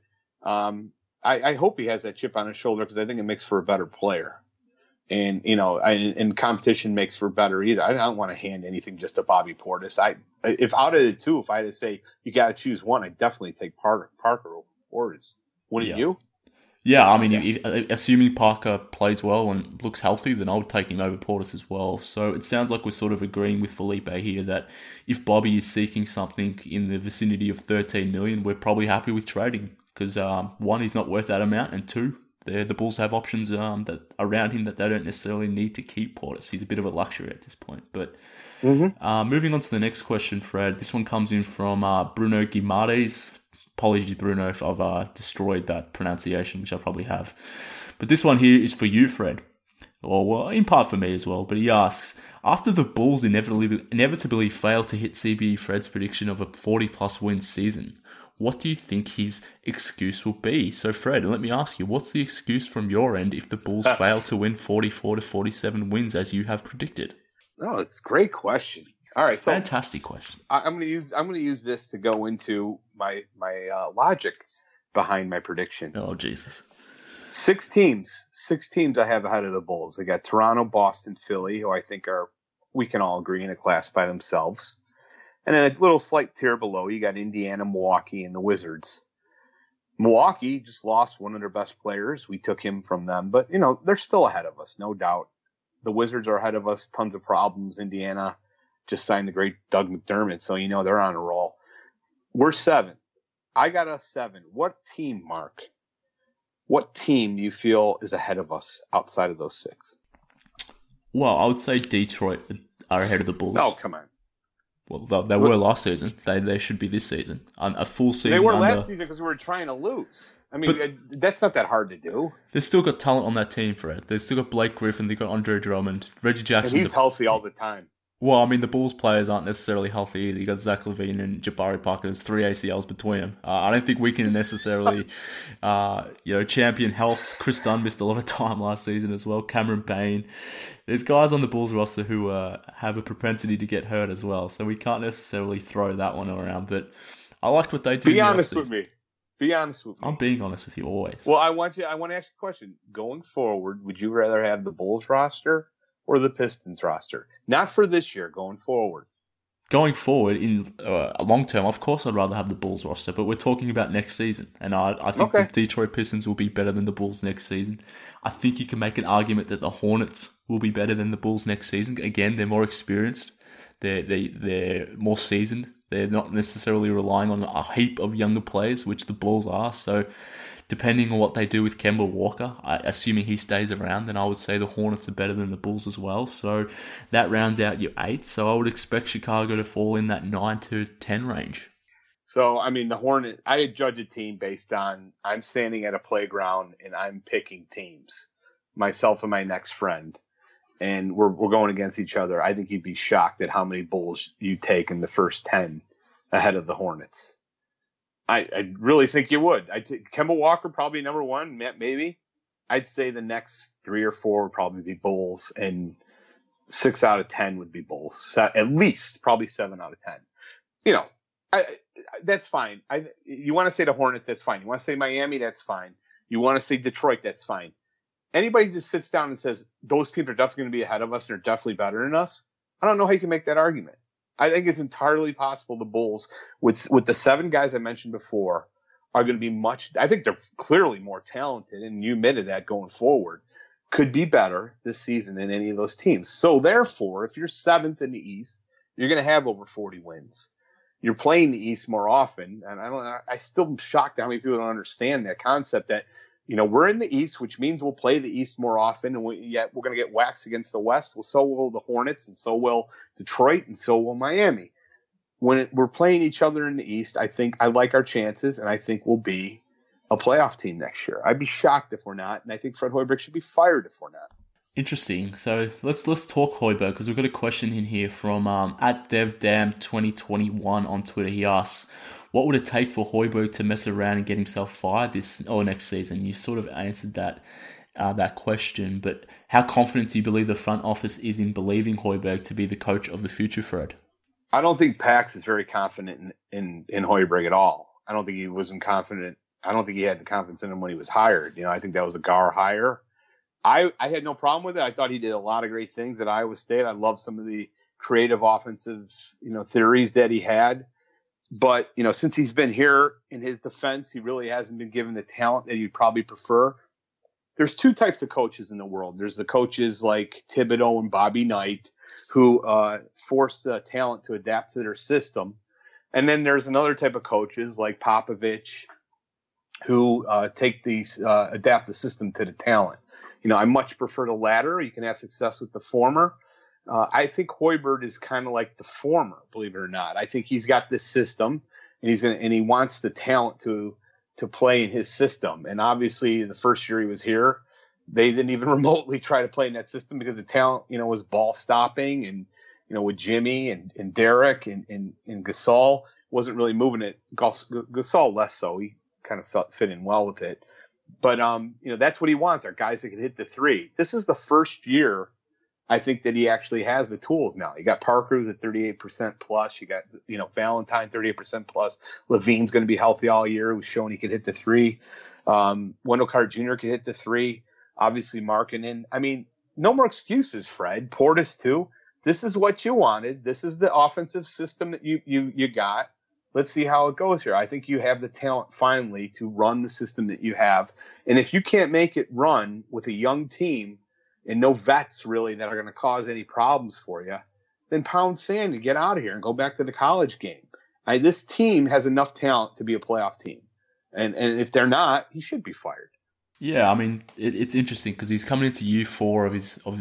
I hope he has that chip on his shoulder, because I think it makes for a better player. And, and competition makes for better either. I don't want to hand anything just to Bobby Portis. If out of the two, if I had to say you got to choose one, I'd definitely take Parker over Portis. Wouldn't you? Yeah, I mean, assuming Parker plays well and looks healthy, then I would take him over Portis as well. So it sounds like we're sort of agreeing with Felipe here that if Bobby is seeking something in the vicinity of $13 million, we're probably happy with trading, because one, he's not worth that amount, and two, the Bulls have options that around him that they don't necessarily need to keep Portis. He's a bit of a luxury at this point. But moving on to the next question, Fred. This one comes in from Bruno Guimaraes. Apologies, Bruno, if I've destroyed that pronunciation, which I probably have. But this one here is for you, Fred. Or, well, in part for me as well. But he asks, after the Bulls inevitably fail to hit CBE Fred's prediction of a 40-plus win season, what do you think his excuse will be? So, Fred, let me ask you, what's the excuse from your end if the Bulls fail to win 44 to 47 wins as you have predicted? No, it's a great question. All right, so fantastic question. I'm going to use this to go into my logic behind my prediction. Oh, Jesus. 6 teams I have ahead of the Bulls. I got Toronto, Boston, Philly, who I think we can all agree in a class by themselves. And then a little slight tier below, you got Indiana, Milwaukee, and the Wizards. Milwaukee just lost one of their best players. We took him from them, but they're still ahead of us, no doubt. The Wizards are ahead of us, tons of problems. Indiana just signed the great Doug McDermott, so they're on a roll. We're 7. I got us 7. What team, Mark? What team do you feel is ahead of us outside of those 6? Well, I would say Detroit are ahead of the Bulls. Oh, come on. Well, they were last season. They should be this season. A full season. They were last season because we were trying to lose. I mean, that's not that hard to do. They've still got talent on that team, Fred. They've still got Blake Griffin. They've got Andre Drummond. Reggie Jackson. And he's healthy all the time. Well, I mean, the Bulls players aren't necessarily healthy either. You got Zach LaVine and Jabari Parker. There's 3 ACLs between them. I don't think we can necessarily, champion health. Chris Dunn missed a lot of time last season as well. Cameron Payne. There's guys on the Bulls roster who have a propensity to get hurt as well. So we can't necessarily throw that one around. But I liked what they did. Be honest with me. Be honest with me. I'm being honest with you always. Well, I want to ask you a question. Going forward, would you rather have the Bulls roster or the Pistons roster? Not for this year, going forward. going forward in long term, of course, I'd rather have the Bulls roster, but we're talking about next season, and I think the Detroit Pistons will be better than the Bulls next season. I think you can make an argument that the Hornets will be better than the Bulls next season. Again, they're more experienced, they're more seasoned. They're not necessarily relying on a heap of younger players, which the Bulls are. So, depending on what they do with Kemba Walker, assuming he stays around, then I would say the Hornets are better than the Bulls as well. So that rounds out your 8. So I would expect Chicago to fall in that 9 to 10 range. So, I mean, the Hornets, I judge a team based on I'm standing at a playground and I'm picking teams, myself and my next friend, and we're going against each other. I think you'd be shocked at how many Bulls you take in the first 10 ahead of the Hornets. I really think you would. Kemba Walker probably number 1, maybe. I'd say the next 3 or 4 would probably be Bulls, and 6 out of 10 would be Bulls. At least, probably 7 out of 10. You know, that's fine. You want to say the Hornets, that's fine. You want to say Miami, that's fine. You want to say Detroit, that's fine. Anybody just sits down and says those teams are definitely going to be ahead of us and are definitely better than us, I don't know how you can make that argument. I think it's entirely possible the Bulls, with the 7 guys I mentioned before, are going to be I think they're clearly more talented, and you admitted that going forward, could be better this season than any of those teams. So therefore, if you're 7th in the East, you're going to have over 40 wins. You're playing the East more often, and I still am shocked at how many people don't understand that concept that, you know, we're in the East, which means we'll play the East more often, and we're going to get waxed against the West. Well, so will the Hornets, and so will Detroit, and so will Miami. When we're playing each other in the East, I think I like our chances, and I think we'll be a playoff team next year. I'd be shocked if we're not, and I think Fred Hoiberg should be fired if we're not. Interesting. So let's talk Hoiberg, because we've got a question in here from at DevDam2021 on Twitter. He asks, what would it take for Hoiberg to mess around and get himself fired this or next season? You sort of answered that question, but how confident do you believe the front office is in believing Hoiberg to be the coach of the future, Fred? I don't think Pax is very confident in Hoiberg at all. I don't think he wasn't confident. I don't think he had the confidence in him when he was hired. You know, I think that was a Gar hire. I had no problem with it. I thought he did a lot of great things at Iowa State. I love some of the creative offensive, theories that he had. But, since he's been here, in his defense, he really hasn't been given the talent that you'd probably prefer. There's 2 types of coaches in the world. There's the coaches like Thibodeau and Bobby Knight who force the talent to adapt to their system. And then there's another type of coaches like Popovich who adapt the system to the talent. I much prefer the latter. You can have success with the former. I think Hoiberg is kind of like the former, believe it or not. I think he's got this system, and he wants the talent to play in his system. And obviously, the first year he was here, they didn't even remotely try to play in that system because the talent, was ball stopping, and with Jimmy and Derek and Gasol wasn't really moving it. Gasol less so. He kind of fit in well with it. But that's what he wants, are guys that can hit the 3. This is the first year I think that he actually has the tools now. You got Parker, who's at 38% plus. You got, Valentine, 38% plus. Levine's going to be healthy all year, who's shown he could hit the 3. Wendell Carter Jr. could hit the 3. Obviously, Markkanen. I mean, no more excuses, Fred. Portis, too. This is what you wanted. This is the offensive system that you got. Let's see how it goes here. I think you have the talent finally to run the system that you have. And if you can't make it run with a young team and no vets really that are going to cause any problems for you, then pound sand and get out of here and go back to the college game. This team has enough talent to be a playoff team. And if they're not, he should be fired. Yeah, I mean, it's interesting because he's coming into year 4 of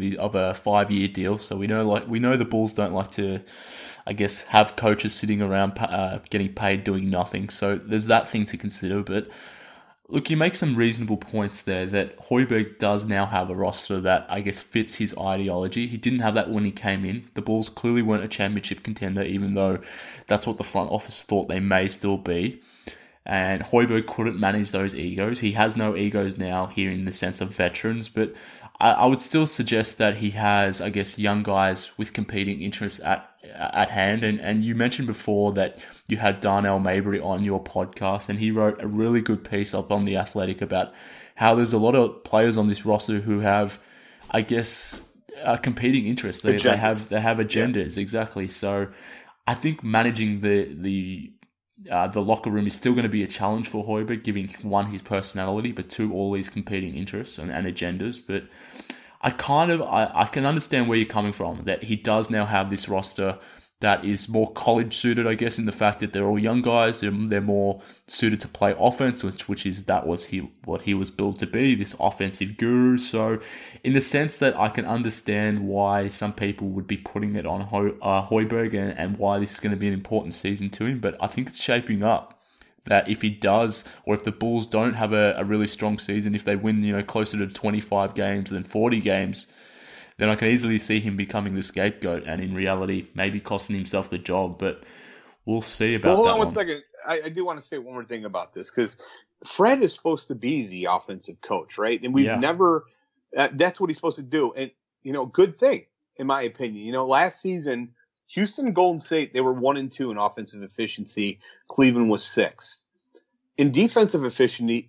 a 5-year deal. So we know the Bulls don't like to, I guess, have coaches sitting around getting paid doing nothing. So there's that thing to consider. But look, you make some reasonable points there that Hoiberg does now have a roster that, I guess, fits his ideology. He didn't have that when he came in. The Bulls clearly weren't a championship contender, even though that's what the front office thought they may still be. And Hoiberg couldn't manage those egos. He has no egos now here in the sense of veterans, but I would still suggest that he has, I guess, young guys with competing interests at hand. And you mentioned before that you had Darnell Mabry on your podcast, and he wrote a really good piece up on The Athletic about how there's a lot of players on this roster who have, I guess, competing interests. They have agendas, exactly. So I think managing the locker room is still going to be a challenge for Hoiberg, giving one, his personality, but two, all these competing interests and agendas. But I can understand where you're coming from, that he does now have this roster that is more college suited, I guess, in the fact that they're all young guys. They're more suited to play offense, which is what he was built to be, this offensive guru. So in the sense that I can understand why some people would be putting it on Hoiberg and why this is going to be an important season to him. But I think it's shaping up that if he does, or if the Bulls don't have a really strong season, if they win, closer to 25 games than 40 games, then I can easily see him becoming the scapegoat and in reality maybe costing himself the job. But we'll see about that. Hold on one second. I do want to say one more thing about this, because Fred is supposed to be the offensive coach, right? And we've never that's what he's supposed to do. And, good thing, in my opinion. Last season, Houston and Golden State, they were 1-2 in offensive efficiency. Cleveland was 6th. In defensive efficiency,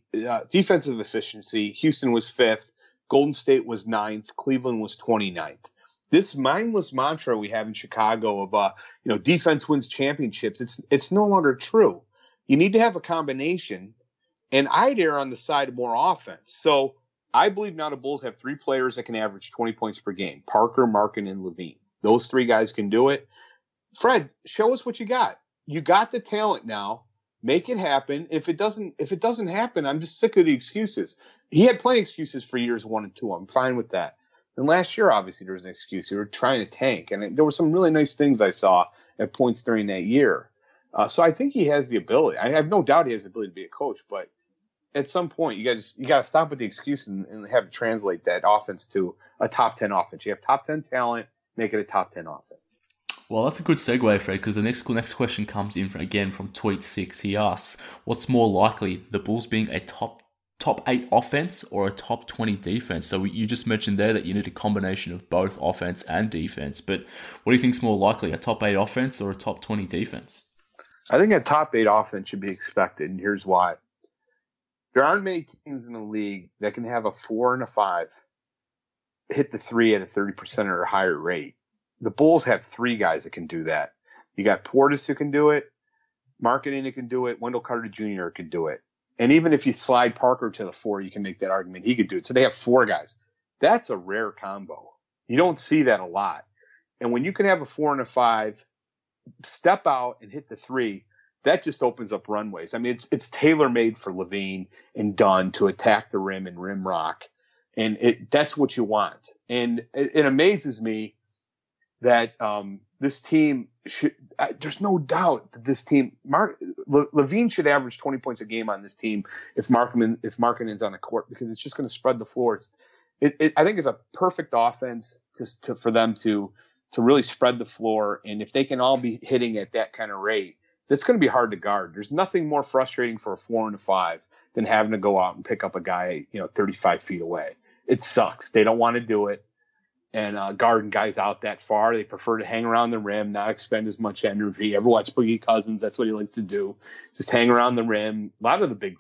Houston was 5th. Golden State was 9th. Cleveland was 29th. This mindless mantra we have in Chicago of, defense wins championships, it's no longer true. You need to have a combination, and I'd err on the side of more offense. So I believe now the Bulls have 3 players that can average 20 points per game: Parker, Markin, and LaVine. Those 3 guys can do it. Fred, show us what you got. You got the talent now. Make it happen. If it doesn't happen, I'm just sick of the excuses. He had plenty of excuses for years 1 and 2. I'm fine with that. And last year, obviously, there was an excuse. You were trying to tank, and there were some really nice things I saw at points during that year. So I think he has the ability. I have no doubt he has the ability to be a coach, but at some point, you got to stop with the excuses and have to translate that offense to a top 10 offense. You have top 10 talent, make it a top 10 offense. Well, that's a good segue, Fred, because the next question comes in again from Tweet6. He asks, what's more likely, the Bulls being a top 8 offense or a top 20 defense? So you just mentioned there that you need a combination of both offense and defense, but what do you think is more likely, a top 8 offense or a top 20 defense? I think a top 8 offense should be expected, and here's why. There aren't many teams in the league that can have a 4 and a 5 hit the 3 at a 30% or higher rate. The Bulls have 3 guys that can do that. You got Portis who can do it, Markkanen who can do it, Wendell Carter Jr. can do it. And even if you slide Parker to the 4, you can make that argument he could do it. So they have 4 guys. That's a rare combo. You don't see that a lot. And when you can have a 4 and a 5, step out and hit the 3, that just opens up runways. I mean, it's tailor-made for LaVine and Dunn to attack the rim and rim rock. And that's what you want. And it amazes me that this team should. There's no doubt that this team, LaVine should average 20 points a game on this team if Markkanen's on the court, because it's just going to spread the floor. I think it's a perfect offense for them to really spread the floor, and if they can all be hitting at that kind of rate, that's going to be hard to guard. There's nothing more frustrating for a 4 and a 5 than having to go out and pick up a guy 35 feet away. It sucks. They don't want to do it. And guarding guys out that far, they prefer to hang around the rim, not expend as much energy. Ever watch Boogie Cousins? That's what he likes to do. Just hang around the rim. A lot of the big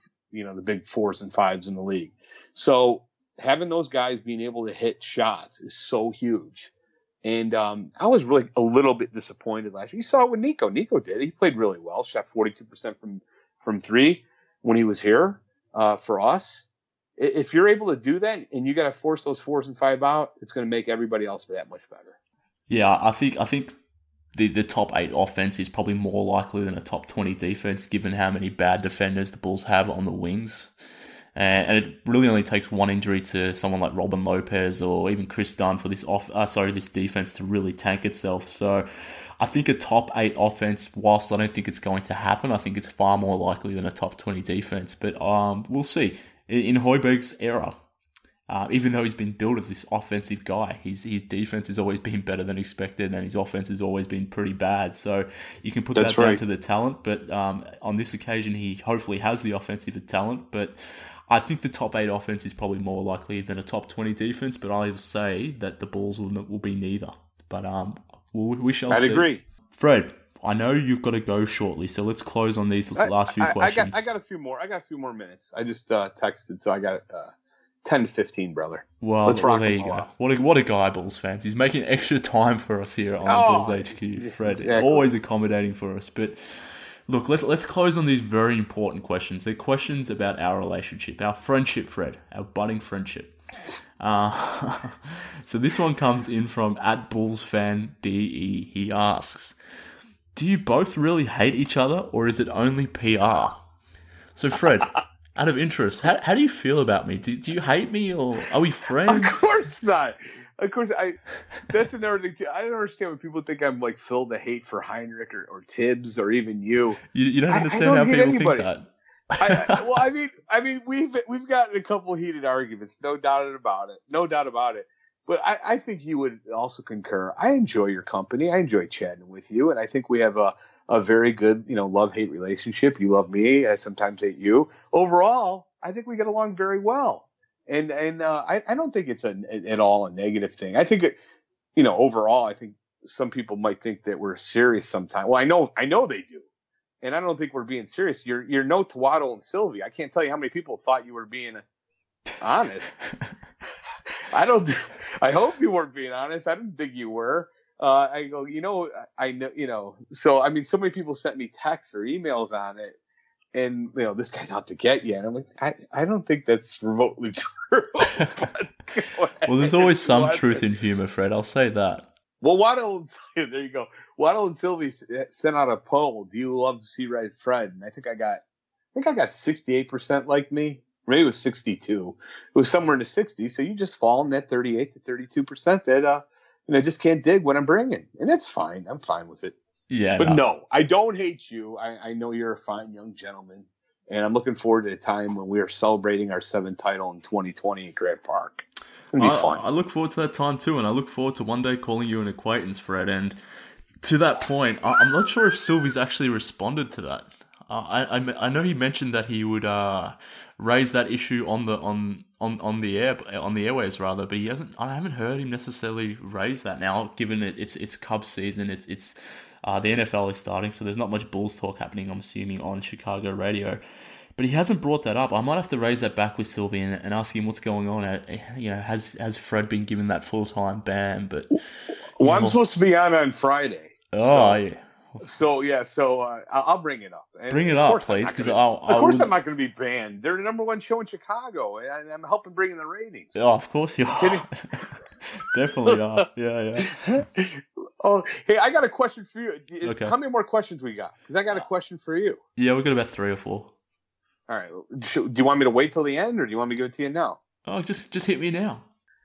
4s and 5s in the league. So having those guys being able to hit shots is so huge. And I was really a little bit disappointed last year. You saw it with Nico. Nico did. He played really well. Shot 42% from 3 when he was here for us. If you're able to do that and you got to force those 4s and 5 out, it's going to make everybody else that much better. Yeah, I think the top 8 offense is probably more likely than a top 20 defense, given how many bad defenders the Bulls have on the wings. And it really only takes one injury to someone like Robin Lopez or even Chris Dunn for this defense to really tank itself. So I think a top 8 offense, whilst I don't think it's going to happen, I think it's far more likely than a top 20 defense. But we'll see. In Hoiberg's era, even though he's been billed as this offensive guy, his defense has always been better than expected, and his offense has always been pretty bad. So you can put that down to the talent, but on this occasion, he hopefully has the offensive talent. But I think the top 8 offense is probably more likely than a top 20 defense, but I will say that the Bulls will be neither. But we shall see. I'd agree. Fred, I know you've got to go shortly, so let's close on these last few questions. I got a few more. I got a few more minutes. I just texted, so I got 10 to 15, brother. Well, Let's rock there you go. What a guy, Bulls fans. He's making extra time for us here on Bulls HQ. Fred, exactly. Always accommodating for us. But look, let's close on these very important questions. They're questions about our relationship, our friendship, Fred, our budding friendship. So this one comes in from @BullsFanDE. He asks, do you both really hate each other, or is it only PR? So Fred, out of interest, how do you feel about me? Do you hate me, or are we friends? Of course not. Of course, that's another thing too. I don't understand when people think I'm like filled with hate for Heinrich or Tibbs or even you. You don't understand how people think that. I mean, we've gotten a couple of heated arguments, no doubt about it. But I think you would also concur. I enjoy your company. I enjoy chatting with you, and I think we have a very good, love-hate relationship. You love me. I sometimes hate you. Overall, I think we get along very well, and I don't think it's at all a negative thing. I think overall, I think some people might think that we're serious sometimes. Well, I know they do. And I don't think we're being serious. You're no Tawaddle and Sylvie. I can't tell you how many people thought you were being honest. I hope you weren't being honest. I didn't think you were. I go, I know, So I mean, so many people sent me texts or emails on it, and this guy's out to get you. And I'm like, I don't think that's remotely true. But well, there's always some truth in humor, Fred. I'll say that. Well, there you go. Waddle and Sylvie sent out a poll. Do you love C-Red Fred? And I think I got 68% like me. Maybe it was 62. It was somewhere in the 60s. So you just fall in that 38 to 32% that just can't dig what I'm bringing, and that's fine. I'm fine with it. Yeah, but no, I don't hate you. I know you're a fine young gentleman, and I'm looking forward to a time when we are celebrating our 7th title in 2020 at Grant Park. It's gonna be fun. I look forward to that time too, and I look forward to one day calling you an acquaintance, Fred. And to that point, I'm not sure if Sylvie's actually responded to that. I know he mentioned that he would raise that issue on the airways rather, but he hasn't. I haven't heard him necessarily raise that now. Given it's Cubs season, it's the NFL is starting, so there's not much Bulls talk happening. I'm assuming on Chicago radio. But he hasn't brought that up. I might have to raise that back with Sylvie and ask him what's going on. Has Fred been given that full-time ban? But I'm supposed to be on Friday. Oh, yeah. So I'll bring it up. And bring it up, please, because of course I'm not going to be banned. They're the number one show in Chicago, and I'm helping bring in the ratings. Oh, of course you are. Definitely are. Yeah. Oh, hey, I got a question for you. Okay. How many more questions we got? Because I got a question for you. Yeah, we got about 3 or 4. All right. Do you want me to wait till the end, or do you want me to give it to you now? Oh, just hit me now.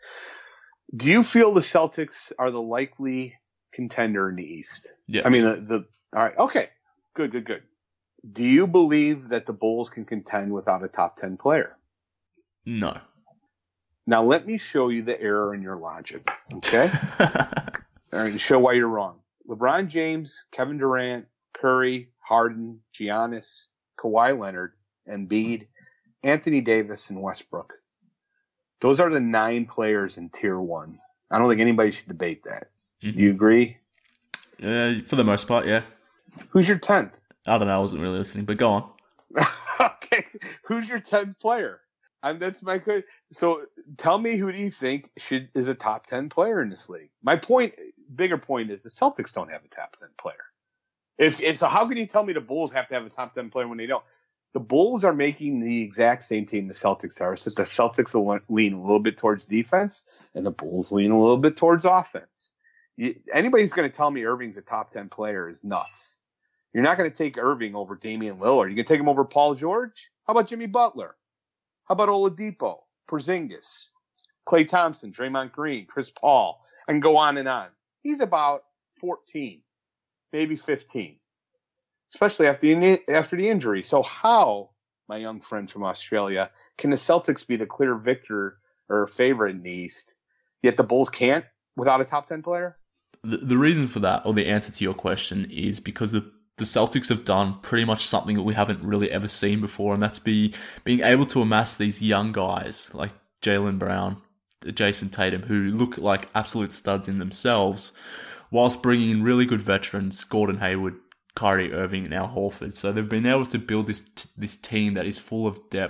Do you feel the Celtics are the likely contender in the East? Yes. I mean, all right. Okay. Good. Do you believe that the Bulls can contend without a top 10 player? No. Now, let me show you the error in your logic, okay? All right, and show why you're wrong. LeBron James, Kevin Durant, Curry, Harden, Giannis, Kawhi Leonard, Embiid, Anthony Davis, and Westbrook. Those are the 9 players in Tier 1. I don't think anybody should debate that. Mm-hmm. Do you agree? For the most part, yeah. Who's your 10th? I don't know. I wasn't really listening, but go on. Okay. Who's your 10th player? That's my good. So tell me, who do you think is a top 10 player in this league? My bigger point is the Celtics don't have a top 10 player. So how can you tell me the Bulls have to have a top 10 player when they don't? The Bulls are making the exact same team the Celtics are. So the Celtics will lean a little bit towards defense, and the Bulls lean a little bit towards offense. Anybody's going to tell me Irving's a top 10 player is nuts. You're not going to take Irving over Damian Lillard. You can take him over Paul George? How about Jimmy Butler? How about Oladipo, Porzingis, Klay Thompson, Draymond Green, Chris Paul? I can go on and on. He's about 14, maybe 15, especially after the injury. So how, my young friend from Australia, can the Celtics be the clear victor or favorite in the East, yet the Bulls can't without a top 10 player? The reason for that, or the answer to your question, is because the Celtics have done pretty much something that we haven't really ever seen before, and that's being able to amass these young guys like Jaylen Brown, Jason Tatum, who look like absolute studs in themselves, whilst bringing in really good veterans, Gordon Hayward, Kyrie Irving, and Al Horford. So they've been able to build this team that is full of depth,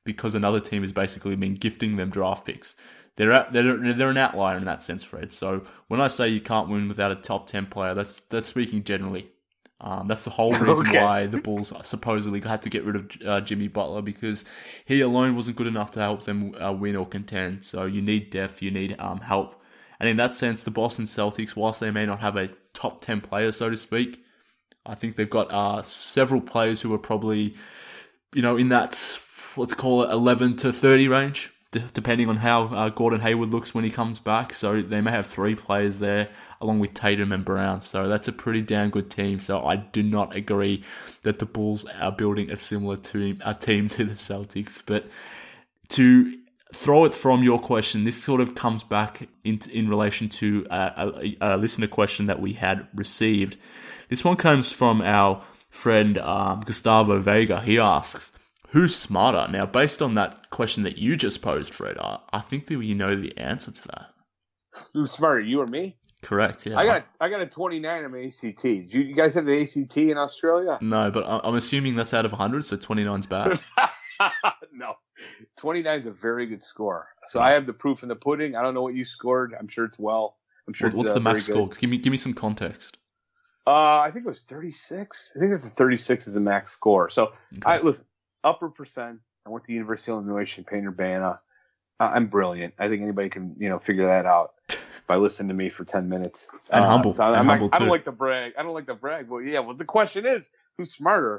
because another team has basically been gifting them draft picks. They're an outlier in that sense, Fred. So when I say you can't win without a top 10 player, that's speaking generally. That's the whole reason why the Bulls supposedly had to get rid of Jimmy Butler, because he alone wasn't good enough to help them win or contend. So you need depth, you need help. And in that sense, the Boston Celtics, whilst they may not have a top 10 player, so to speak, I think they've got several players who are probably, in that, let's call it 11 to 30 range, depending on how Gordon Hayward looks when he comes back. So they may have 3 players there, along with Tatum and Brown. So that's a pretty damn good team. So I do not agree that the Bulls are building a similar team to the Celtics. But to throw it from your question, this sort of comes back in relation to a listener question that we had received. This one comes from our friend Gustavo Vega. He asks, who's smarter? Now, based on that question that you just posed, Fred, I think that you know the answer to that. Who's smarter, you or me? Correct, yeah. I got a 29 on my ACT. Do you guys have the ACT in Australia? No, but I'm assuming that's out of 100, so 29's bad. No. 29 is a very good score. So I have the proof in the pudding. I don't know what you scored. I'm sure it's well. I'm sure What's the max score? Give me some context. I think it was 36. I think it's 36 is the max score. So Okay. listen, upper percent. I went to the University of Illinois, Champaign-Urbana. I'm brilliant. I think anybody can, figure that out by listening to me for 10 minutes. And humble. So and humble I don't too. like to brag. But yeah, well, the question is, who's smarter?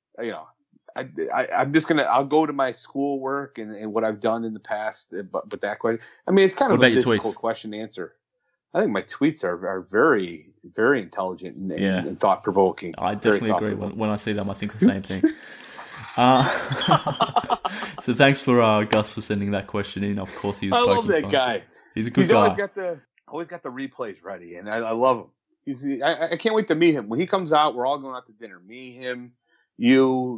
I'm just I'll go to my schoolwork and what I've done in the past. But that question, it's kind of a difficult question to answer. I think my tweets are very, very intelligent and thought provoking. I definitely agree. When I see them, I think the same thing. So thanks for Gus for sending that question in. Of course, he was. I love that fun. Guy. He's a good guy. Always got the replays ready, and I love him. I can't wait to meet him when he comes out. We're all going out to dinner. Me, him, you,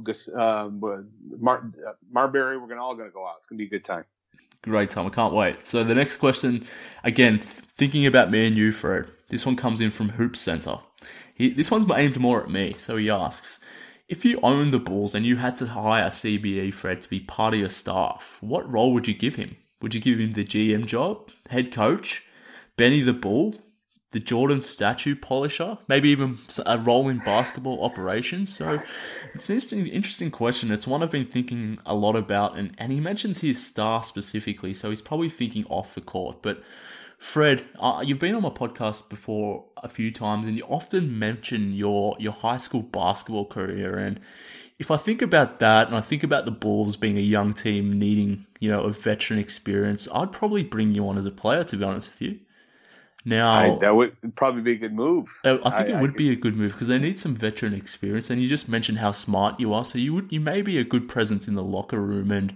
Marbury. We're all going to go out. It's going to be a good time. Great time. I can't wait. So the next question, again, thinking about me and you, Fred. This one comes in from Hoop Center. This one's aimed more at me. So he asks, if you owned the Bulls and you had to hire CBE Fred to be part of your staff, what role would you give him? Would you give him the GM job, head coach, Benny the Bull, the Jordan statue polisher, maybe even a role in basketball operations? So it's an interesting question. It's one I've been thinking a lot about, and he mentions his staff specifically, so he's probably thinking off the court. But Fred, you've been on my podcast before a few times, and you often mention your high school basketball career. And if I think about that, and I think about the Bulls being a young team needing, a veteran experience, I'd probably bring you on as a player, to be honest with you. Now, that would probably be a good move. I think it would be a good move because they need some veteran experience. And you just mentioned how smart you are, so you may be a good presence in the locker room. And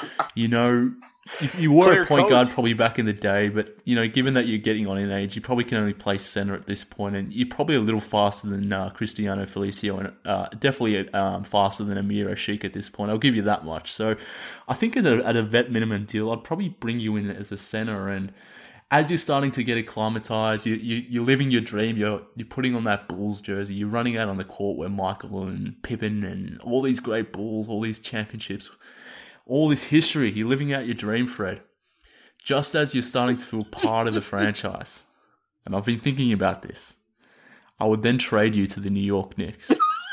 you were a point guard probably back in the day, but given that you're getting on in age, you probably can only play center at this point, and you're probably a little faster than Cristiano Felicio, and definitely faster than Amir Ashik at this point. I'll give you that much. So I think at a vet minimum deal, I'd probably bring you in as a center. And as you're starting to get acclimatized, you're living your dream. You're putting on that Bulls jersey. You're running out on the court where Michael and Pippen and all these great Bulls, all these championships, all this history. You're living out your dream, Fred. Just as you're starting to feel part of the franchise, and I've been thinking about this, I would then trade you to the New York Knicks.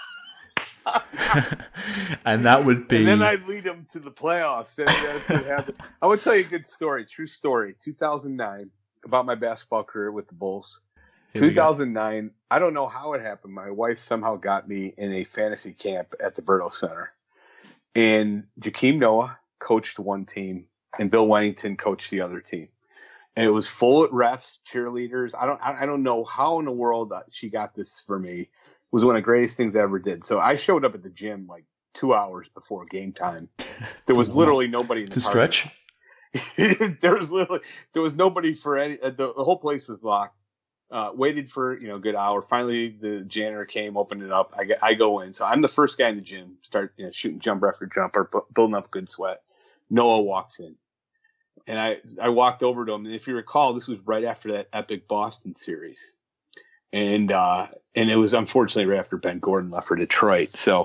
And that would be... And then I'd lead them to the playoffs. And that's what happened. I would tell you a good story, true story. 2009, about my basketball career with the Bulls. 2009, I don't know how it happened. My wife somehow got me in a fantasy camp at the Berto Center. And Jakeem Noah coached one team, and Bill Wennington coached the other team. And it was full of refs, cheerleaders. I don't know how in the world she got this for me. It was one of the greatest things I ever did. So I showed up at the gym like 2 hours before game time. There was literally nobody in the to stretch. there was nobody for any. The whole place was locked. Waited for a good hour. Finally, the janitor came, opened it up. I go in. So I'm the first guy in the gym. Start shooting jumper after jumper, building up good sweat. Noah walks in. And I walked over to him, and if you recall, this was right after that epic Boston series, and it was unfortunately right after Ben Gordon left for Detroit. So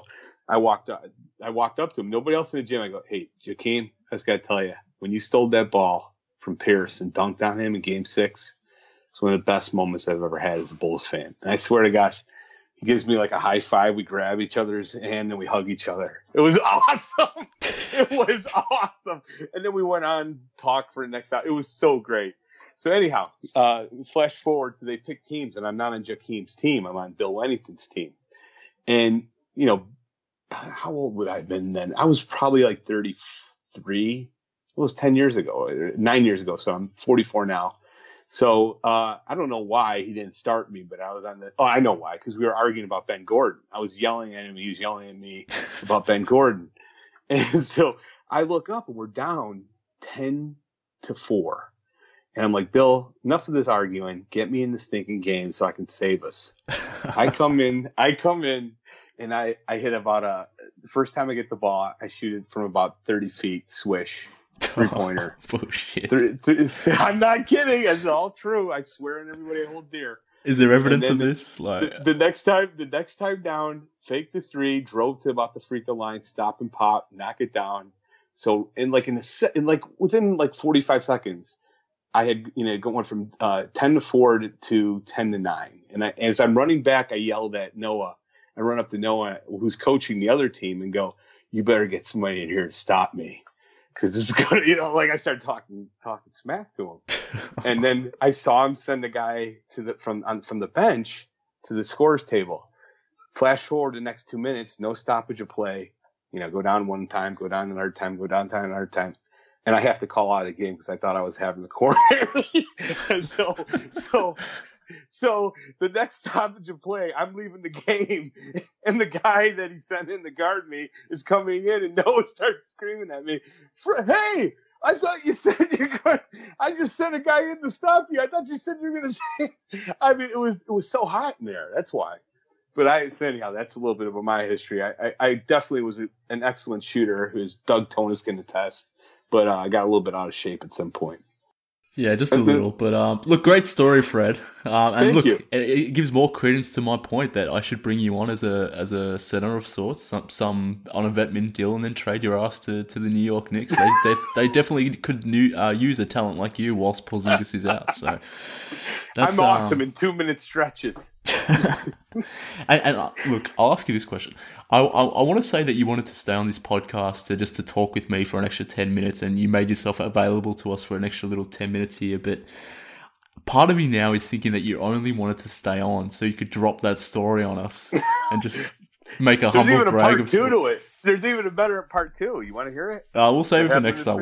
I walked up to him. Nobody else in the gym. I go, hey, Jakeem, I just got to tell you, when you stole that ball from Pierce and dunked on him in Game 6, it's one of the best moments I've ever had as a Bulls fan. And I swear to gosh, he gives me like a high five. We grab each other's hand and we hug each other. It was awesome. It was awesome. And then we went on talk for the next hour. It was so great. So anyhow, flash forward to they pick teams, and I'm not on Jakeem's team. I'm on Bill Wennington's team. And, you know, how old would I have been then? I was probably like 33. It was 10 years ago, 9 years ago. So I'm 44 now. So I don't know why he didn't start me, but I was on the – oh, I know why, because we were arguing about Ben Gordon. I was yelling at him. He was yelling at me about Ben Gordon. And so I look up, and we're down 10-4. And I'm like, Bill, enough of this arguing. Get me in the stinking game so I can save us. I come in, and I hit about the first time I get the ball, I shoot it from about 30 feet, swish. 3-pointer. Bullshit. I'm not kidding. It's all true. I swear on everybody I hold dear. Is there evidence of this? Like the next time down, fake the 3, drove to about the free throw line, stop and pop, knock it down. So within like 45 seconds, I had going from 10-4 to 10-9. And as I'm running back, I yelled at Noah. I run up to Noah, who's coaching the other team, and go, "You better get somebody in here to stop me." Because this is going to, I started talking smack to him. And then I saw him send the guy from the bench to the scores table. Flash forward the next 2 minutes, no stoppage of play. Go down one time, go down another time, go down time, another time. And I have to call out a game because I thought I was having the corner. And so the next stoppage of play, I'm leaving the game, and the guy that he sent in to guard me is coming in, and Noah starts screaming at me, "Hey, I thought you said you're going. I just sent a guy in to stop you. I thought you said you were going to." I mean, it was so hot in there. That's why. But anyhow, that's a little bit of my history. I definitely was an excellent shooter, who's Doug Tonis can attest. But I got a little bit out of shape at some point. Yeah, just a little. But look, great story, Fred. And Thank you. It gives more credence to my point that I should bring you on as a center of sorts, some on a vet mint deal, and then trade your ass to the New York Knicks. They definitely could use a talent like you whilst Porzingis is out. So I'm awesome in 2-minute stretches. and look, I'll ask you this question. I want to say that you wanted to stay on this podcast to talk with me for an extra 10 minutes, and you made yourself available to us for an extra little 10 minutes here, but part of me now is thinking that you only wanted to stay on so you could drop that story on us and just make a humble brag of sorts. There's even a part 2 to it. There's even a better part 2. You want to hear it? We'll save it for next time.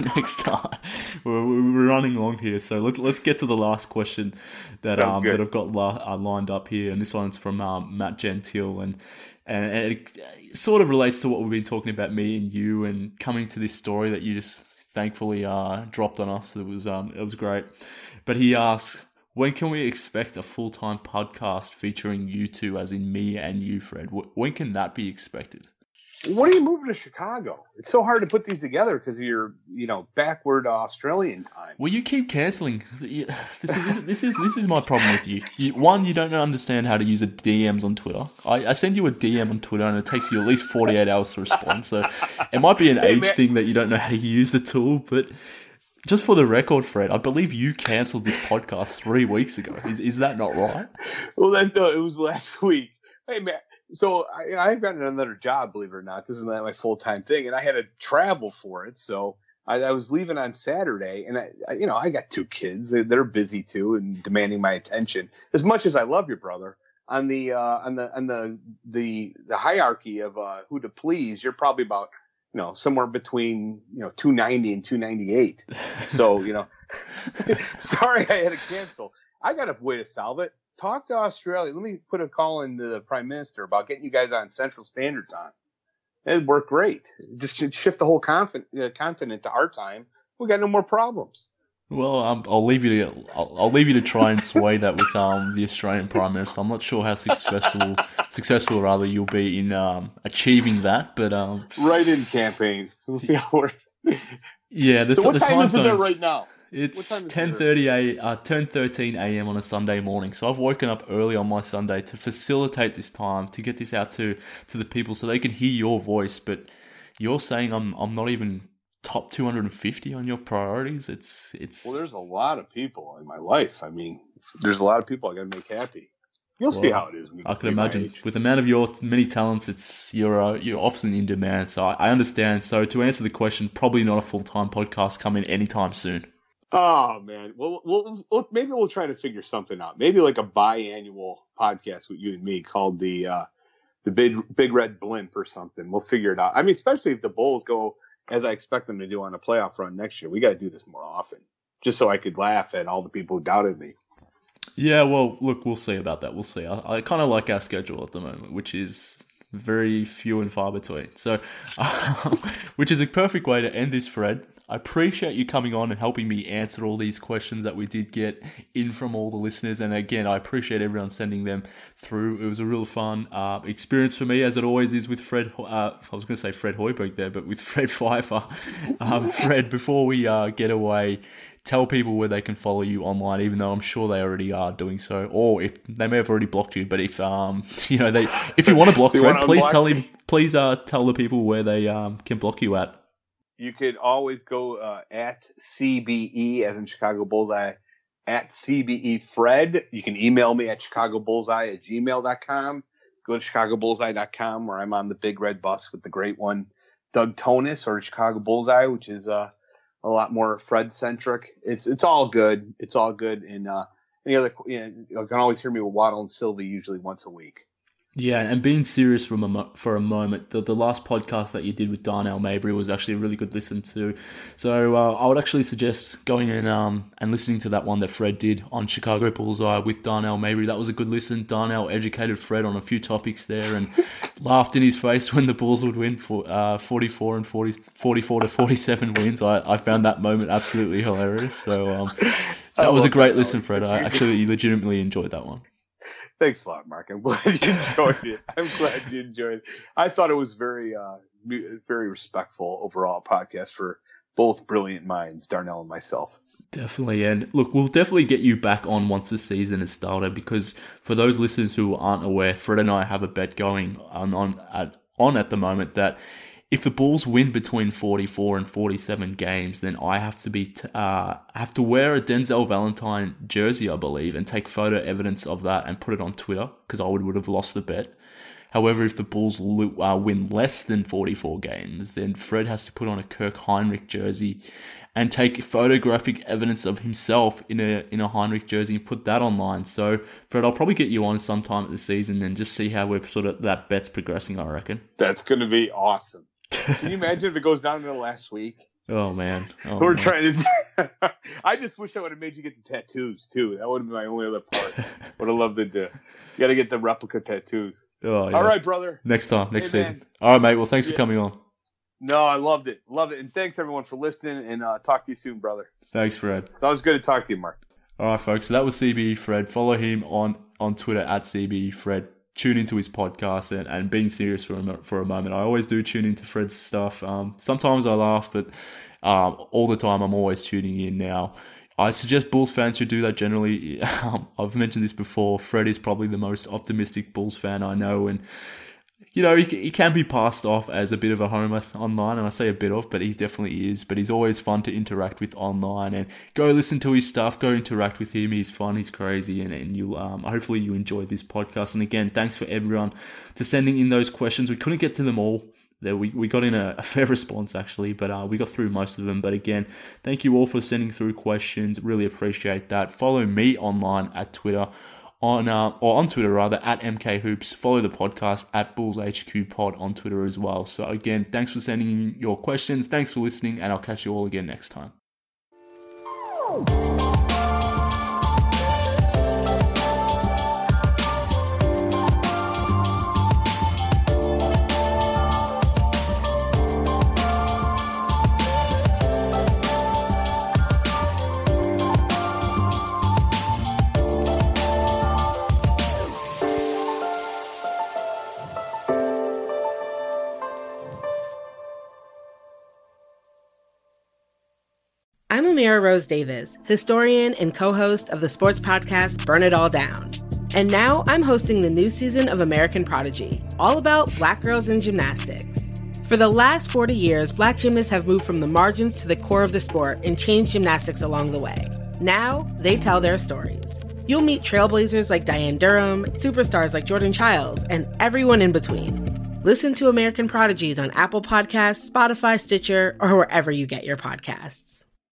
We're running long here, so let's get to the last question that I've got lined up here, and this one's from Matt Gentile, and it sort of relates to what we've been talking about, me and you, and coming to this story that you just thankfully dropped on us. It was great. But he asks, when can we expect a full-time podcast featuring you two, as in me and you, Fred? When can that be expected? What are you moving to Chicago? It's so hard to put these together because of your, backward Australian time. Well, you keep cancelling. This is my problem with you. You don't understand how to use a DMs on Twitter. I send you a DM on Twitter, and it takes you at least 48 hours to respond. So it might be an age thing that you don't know how to use the tool, but just for the record, Fred, I believe you cancelled this podcast 3 weeks ago. Is that not right? Well, it was last week. Hey, man. So I've gotten another job, believe it or not. This is not my full-time thing, and I had to travel for it. So I was leaving on Saturday, and I got 2 kids. They're busy too and demanding my attention. As much as I love your brother, on the hierarchy of who to please, you're probably about somewhere between 290 and 298. So sorry I had to cancel. I got a way to solve it. Talk to Australia. Let me put a call into the Prime Minister about getting you guys on Central Standard Time. It'd work great. Just shift the whole continent to our time. We got no more problems. Well, I'll leave you to try and sway that with the Australian Prime Minister. I'm not sure how successful rather you'll be in achieving that, but write-in campaign. We'll see how it works. Yeah. So what time is it there right now? It's time is 10:13 a.m. on a Sunday morning. So I've woken up early on my Sunday to facilitate this time, to get this out to the people so they can hear your voice. But you're saying I'm not even top 250 on your priorities. It's Well, there's a lot of people in my life. I mean, there's a lot of people I got to make happy. You'll see how it is. I can imagine. With the amount of your many talents, you're often in demand. So I understand. So to answer the question, probably not a full-time podcast coming anytime soon. Oh man, well, maybe we'll try to figure something out. Maybe like a biannual podcast with you and me called the Big Red Blimp or something. We'll figure it out. I mean, especially if the Bulls go as I expect them to do on a playoff run next year. We got to do this more often, just so I could laugh at all the people who doubted me. Yeah, well, look, we'll see about that. We'll see. I kind of like our schedule at the moment, which is very few and far between. So, which is a perfect way to end this, Fred. I appreciate you coming on and helping me answer all these questions that we did get in from all the listeners. And again, I appreciate everyone sending them through. It was a real fun experience for me, as it always is with Fred. I was going to say Fred Hoiberg there, but with Fred Pfeiffer. Fred, before we get away, tell people where they can follow you online, even though I'm sure they already are doing so, or if they may have already blocked you. But if if you want to block Fred, please tell him. Please tell the people where they can block you at. You could always go at CBE, as in Chicago Bullseye, at CBE Fred. You can email me at chicagobullseye@gmail.com. Go to chicagobullseye.com, where I'm on the Big Red Bus with the great one, Doug Tonis, or Chicago Bullseye, which is a lot more Fred-centric. It's all good. It's all good. And any other, you can always hear me with Waddle and Sylvie usually once a week. Yeah, and being serious for a moment, the last podcast that you did with Darnell Mabry was actually a really good listen to. So I would actually suggest going in and listening to that one that Fred did on Chicago Bullseye with Darnell Mabry. That was a good listen. Darnell educated Fred on a few topics there and laughed in his face when the Bulls would win for 44 to 47 wins. I found that moment absolutely hilarious. So that was a great listen, Fred. I actually legitimately enjoyed that one. Thanks a lot, Mark. I'm glad you enjoyed it. I thought it was very, very respectful overall podcast for both brilliant minds, Darnell and myself. Definitely. And look, we'll definitely get you back on once the season has started, because for those listeners who aren't aware, Fred and I have a bet going on at the moment that if the Bulls win between 44 and 47 games, then I have to wear a Denzel Valentine jersey, I believe, and take photo evidence of that and put it on Twitter, because I would have lost the bet. However, if the Bulls win less than 44 games, then Fred has to put on a Kirk Hinrich jersey and take photographic evidence of himself in a Hinrich jersey and put that online. So, Fred, I'll probably get you on sometime at the season and just see how we're sort of that bet's progressing, I reckon. That's going to be awesome. Can you imagine if it goes down to the last week? Oh, man. We're trying to... I just wish I would have made you get the tattoos, too. That would have been my only other part. Would have loved to do. You got to get the replica tattoos. Oh, yeah. All right, brother. Next season. All right, mate. Well, thanks for coming on. No, I loved it. Loved it. And thanks, everyone, for listening. And talk to you soon, brother. Thanks, Fred. It's always good to talk to you, Mark. All right, folks. So that was CBE Fred. Follow him on Twitter at CBE Fred. Tune into his podcast and being serious for a moment. I always do tune into Fred's stuff. Sometimes I laugh, but all the time I'm always tuning in now. I suggest Bulls fans should do that generally. I've mentioned this before. Fred is probably the most optimistic Bulls fan I know, and he can be passed off as a bit of a homer online, and I say a bit of, but he definitely is. But he's always fun to interact with online, and go listen to his stuff, go interact with him. He's fun, he's crazy, and you'll hopefully you enjoyed this podcast. And again, thanks for everyone to sending in those questions. We couldn't get to them all. We got in a fair response actually, but we got through most of them. But again, thank you all for sending through questions. Really appreciate that. Follow me online at Twitter. On Twitter rather, at MKHoops. Follow the podcast at BullsHQ Pod on Twitter as well. So again, thanks for sending in your questions. Thanks for listening, and I'll catch you all again next time. I'm Amira Rose Davis, historian and co-host of the sports podcast Burn It All Down. And now I'm hosting the new season of American Prodigy, all about Black girls in gymnastics. For the last 40 years, Black gymnasts have moved from the margins to the core of the sport and changed gymnastics along the way. Now, they tell their stories. You'll meet trailblazers like Diane Durham, superstars like Jordan Childs, and everyone in between. Listen to American Prodigies on Apple Podcasts, Spotify, Stitcher, or wherever you get your podcasts.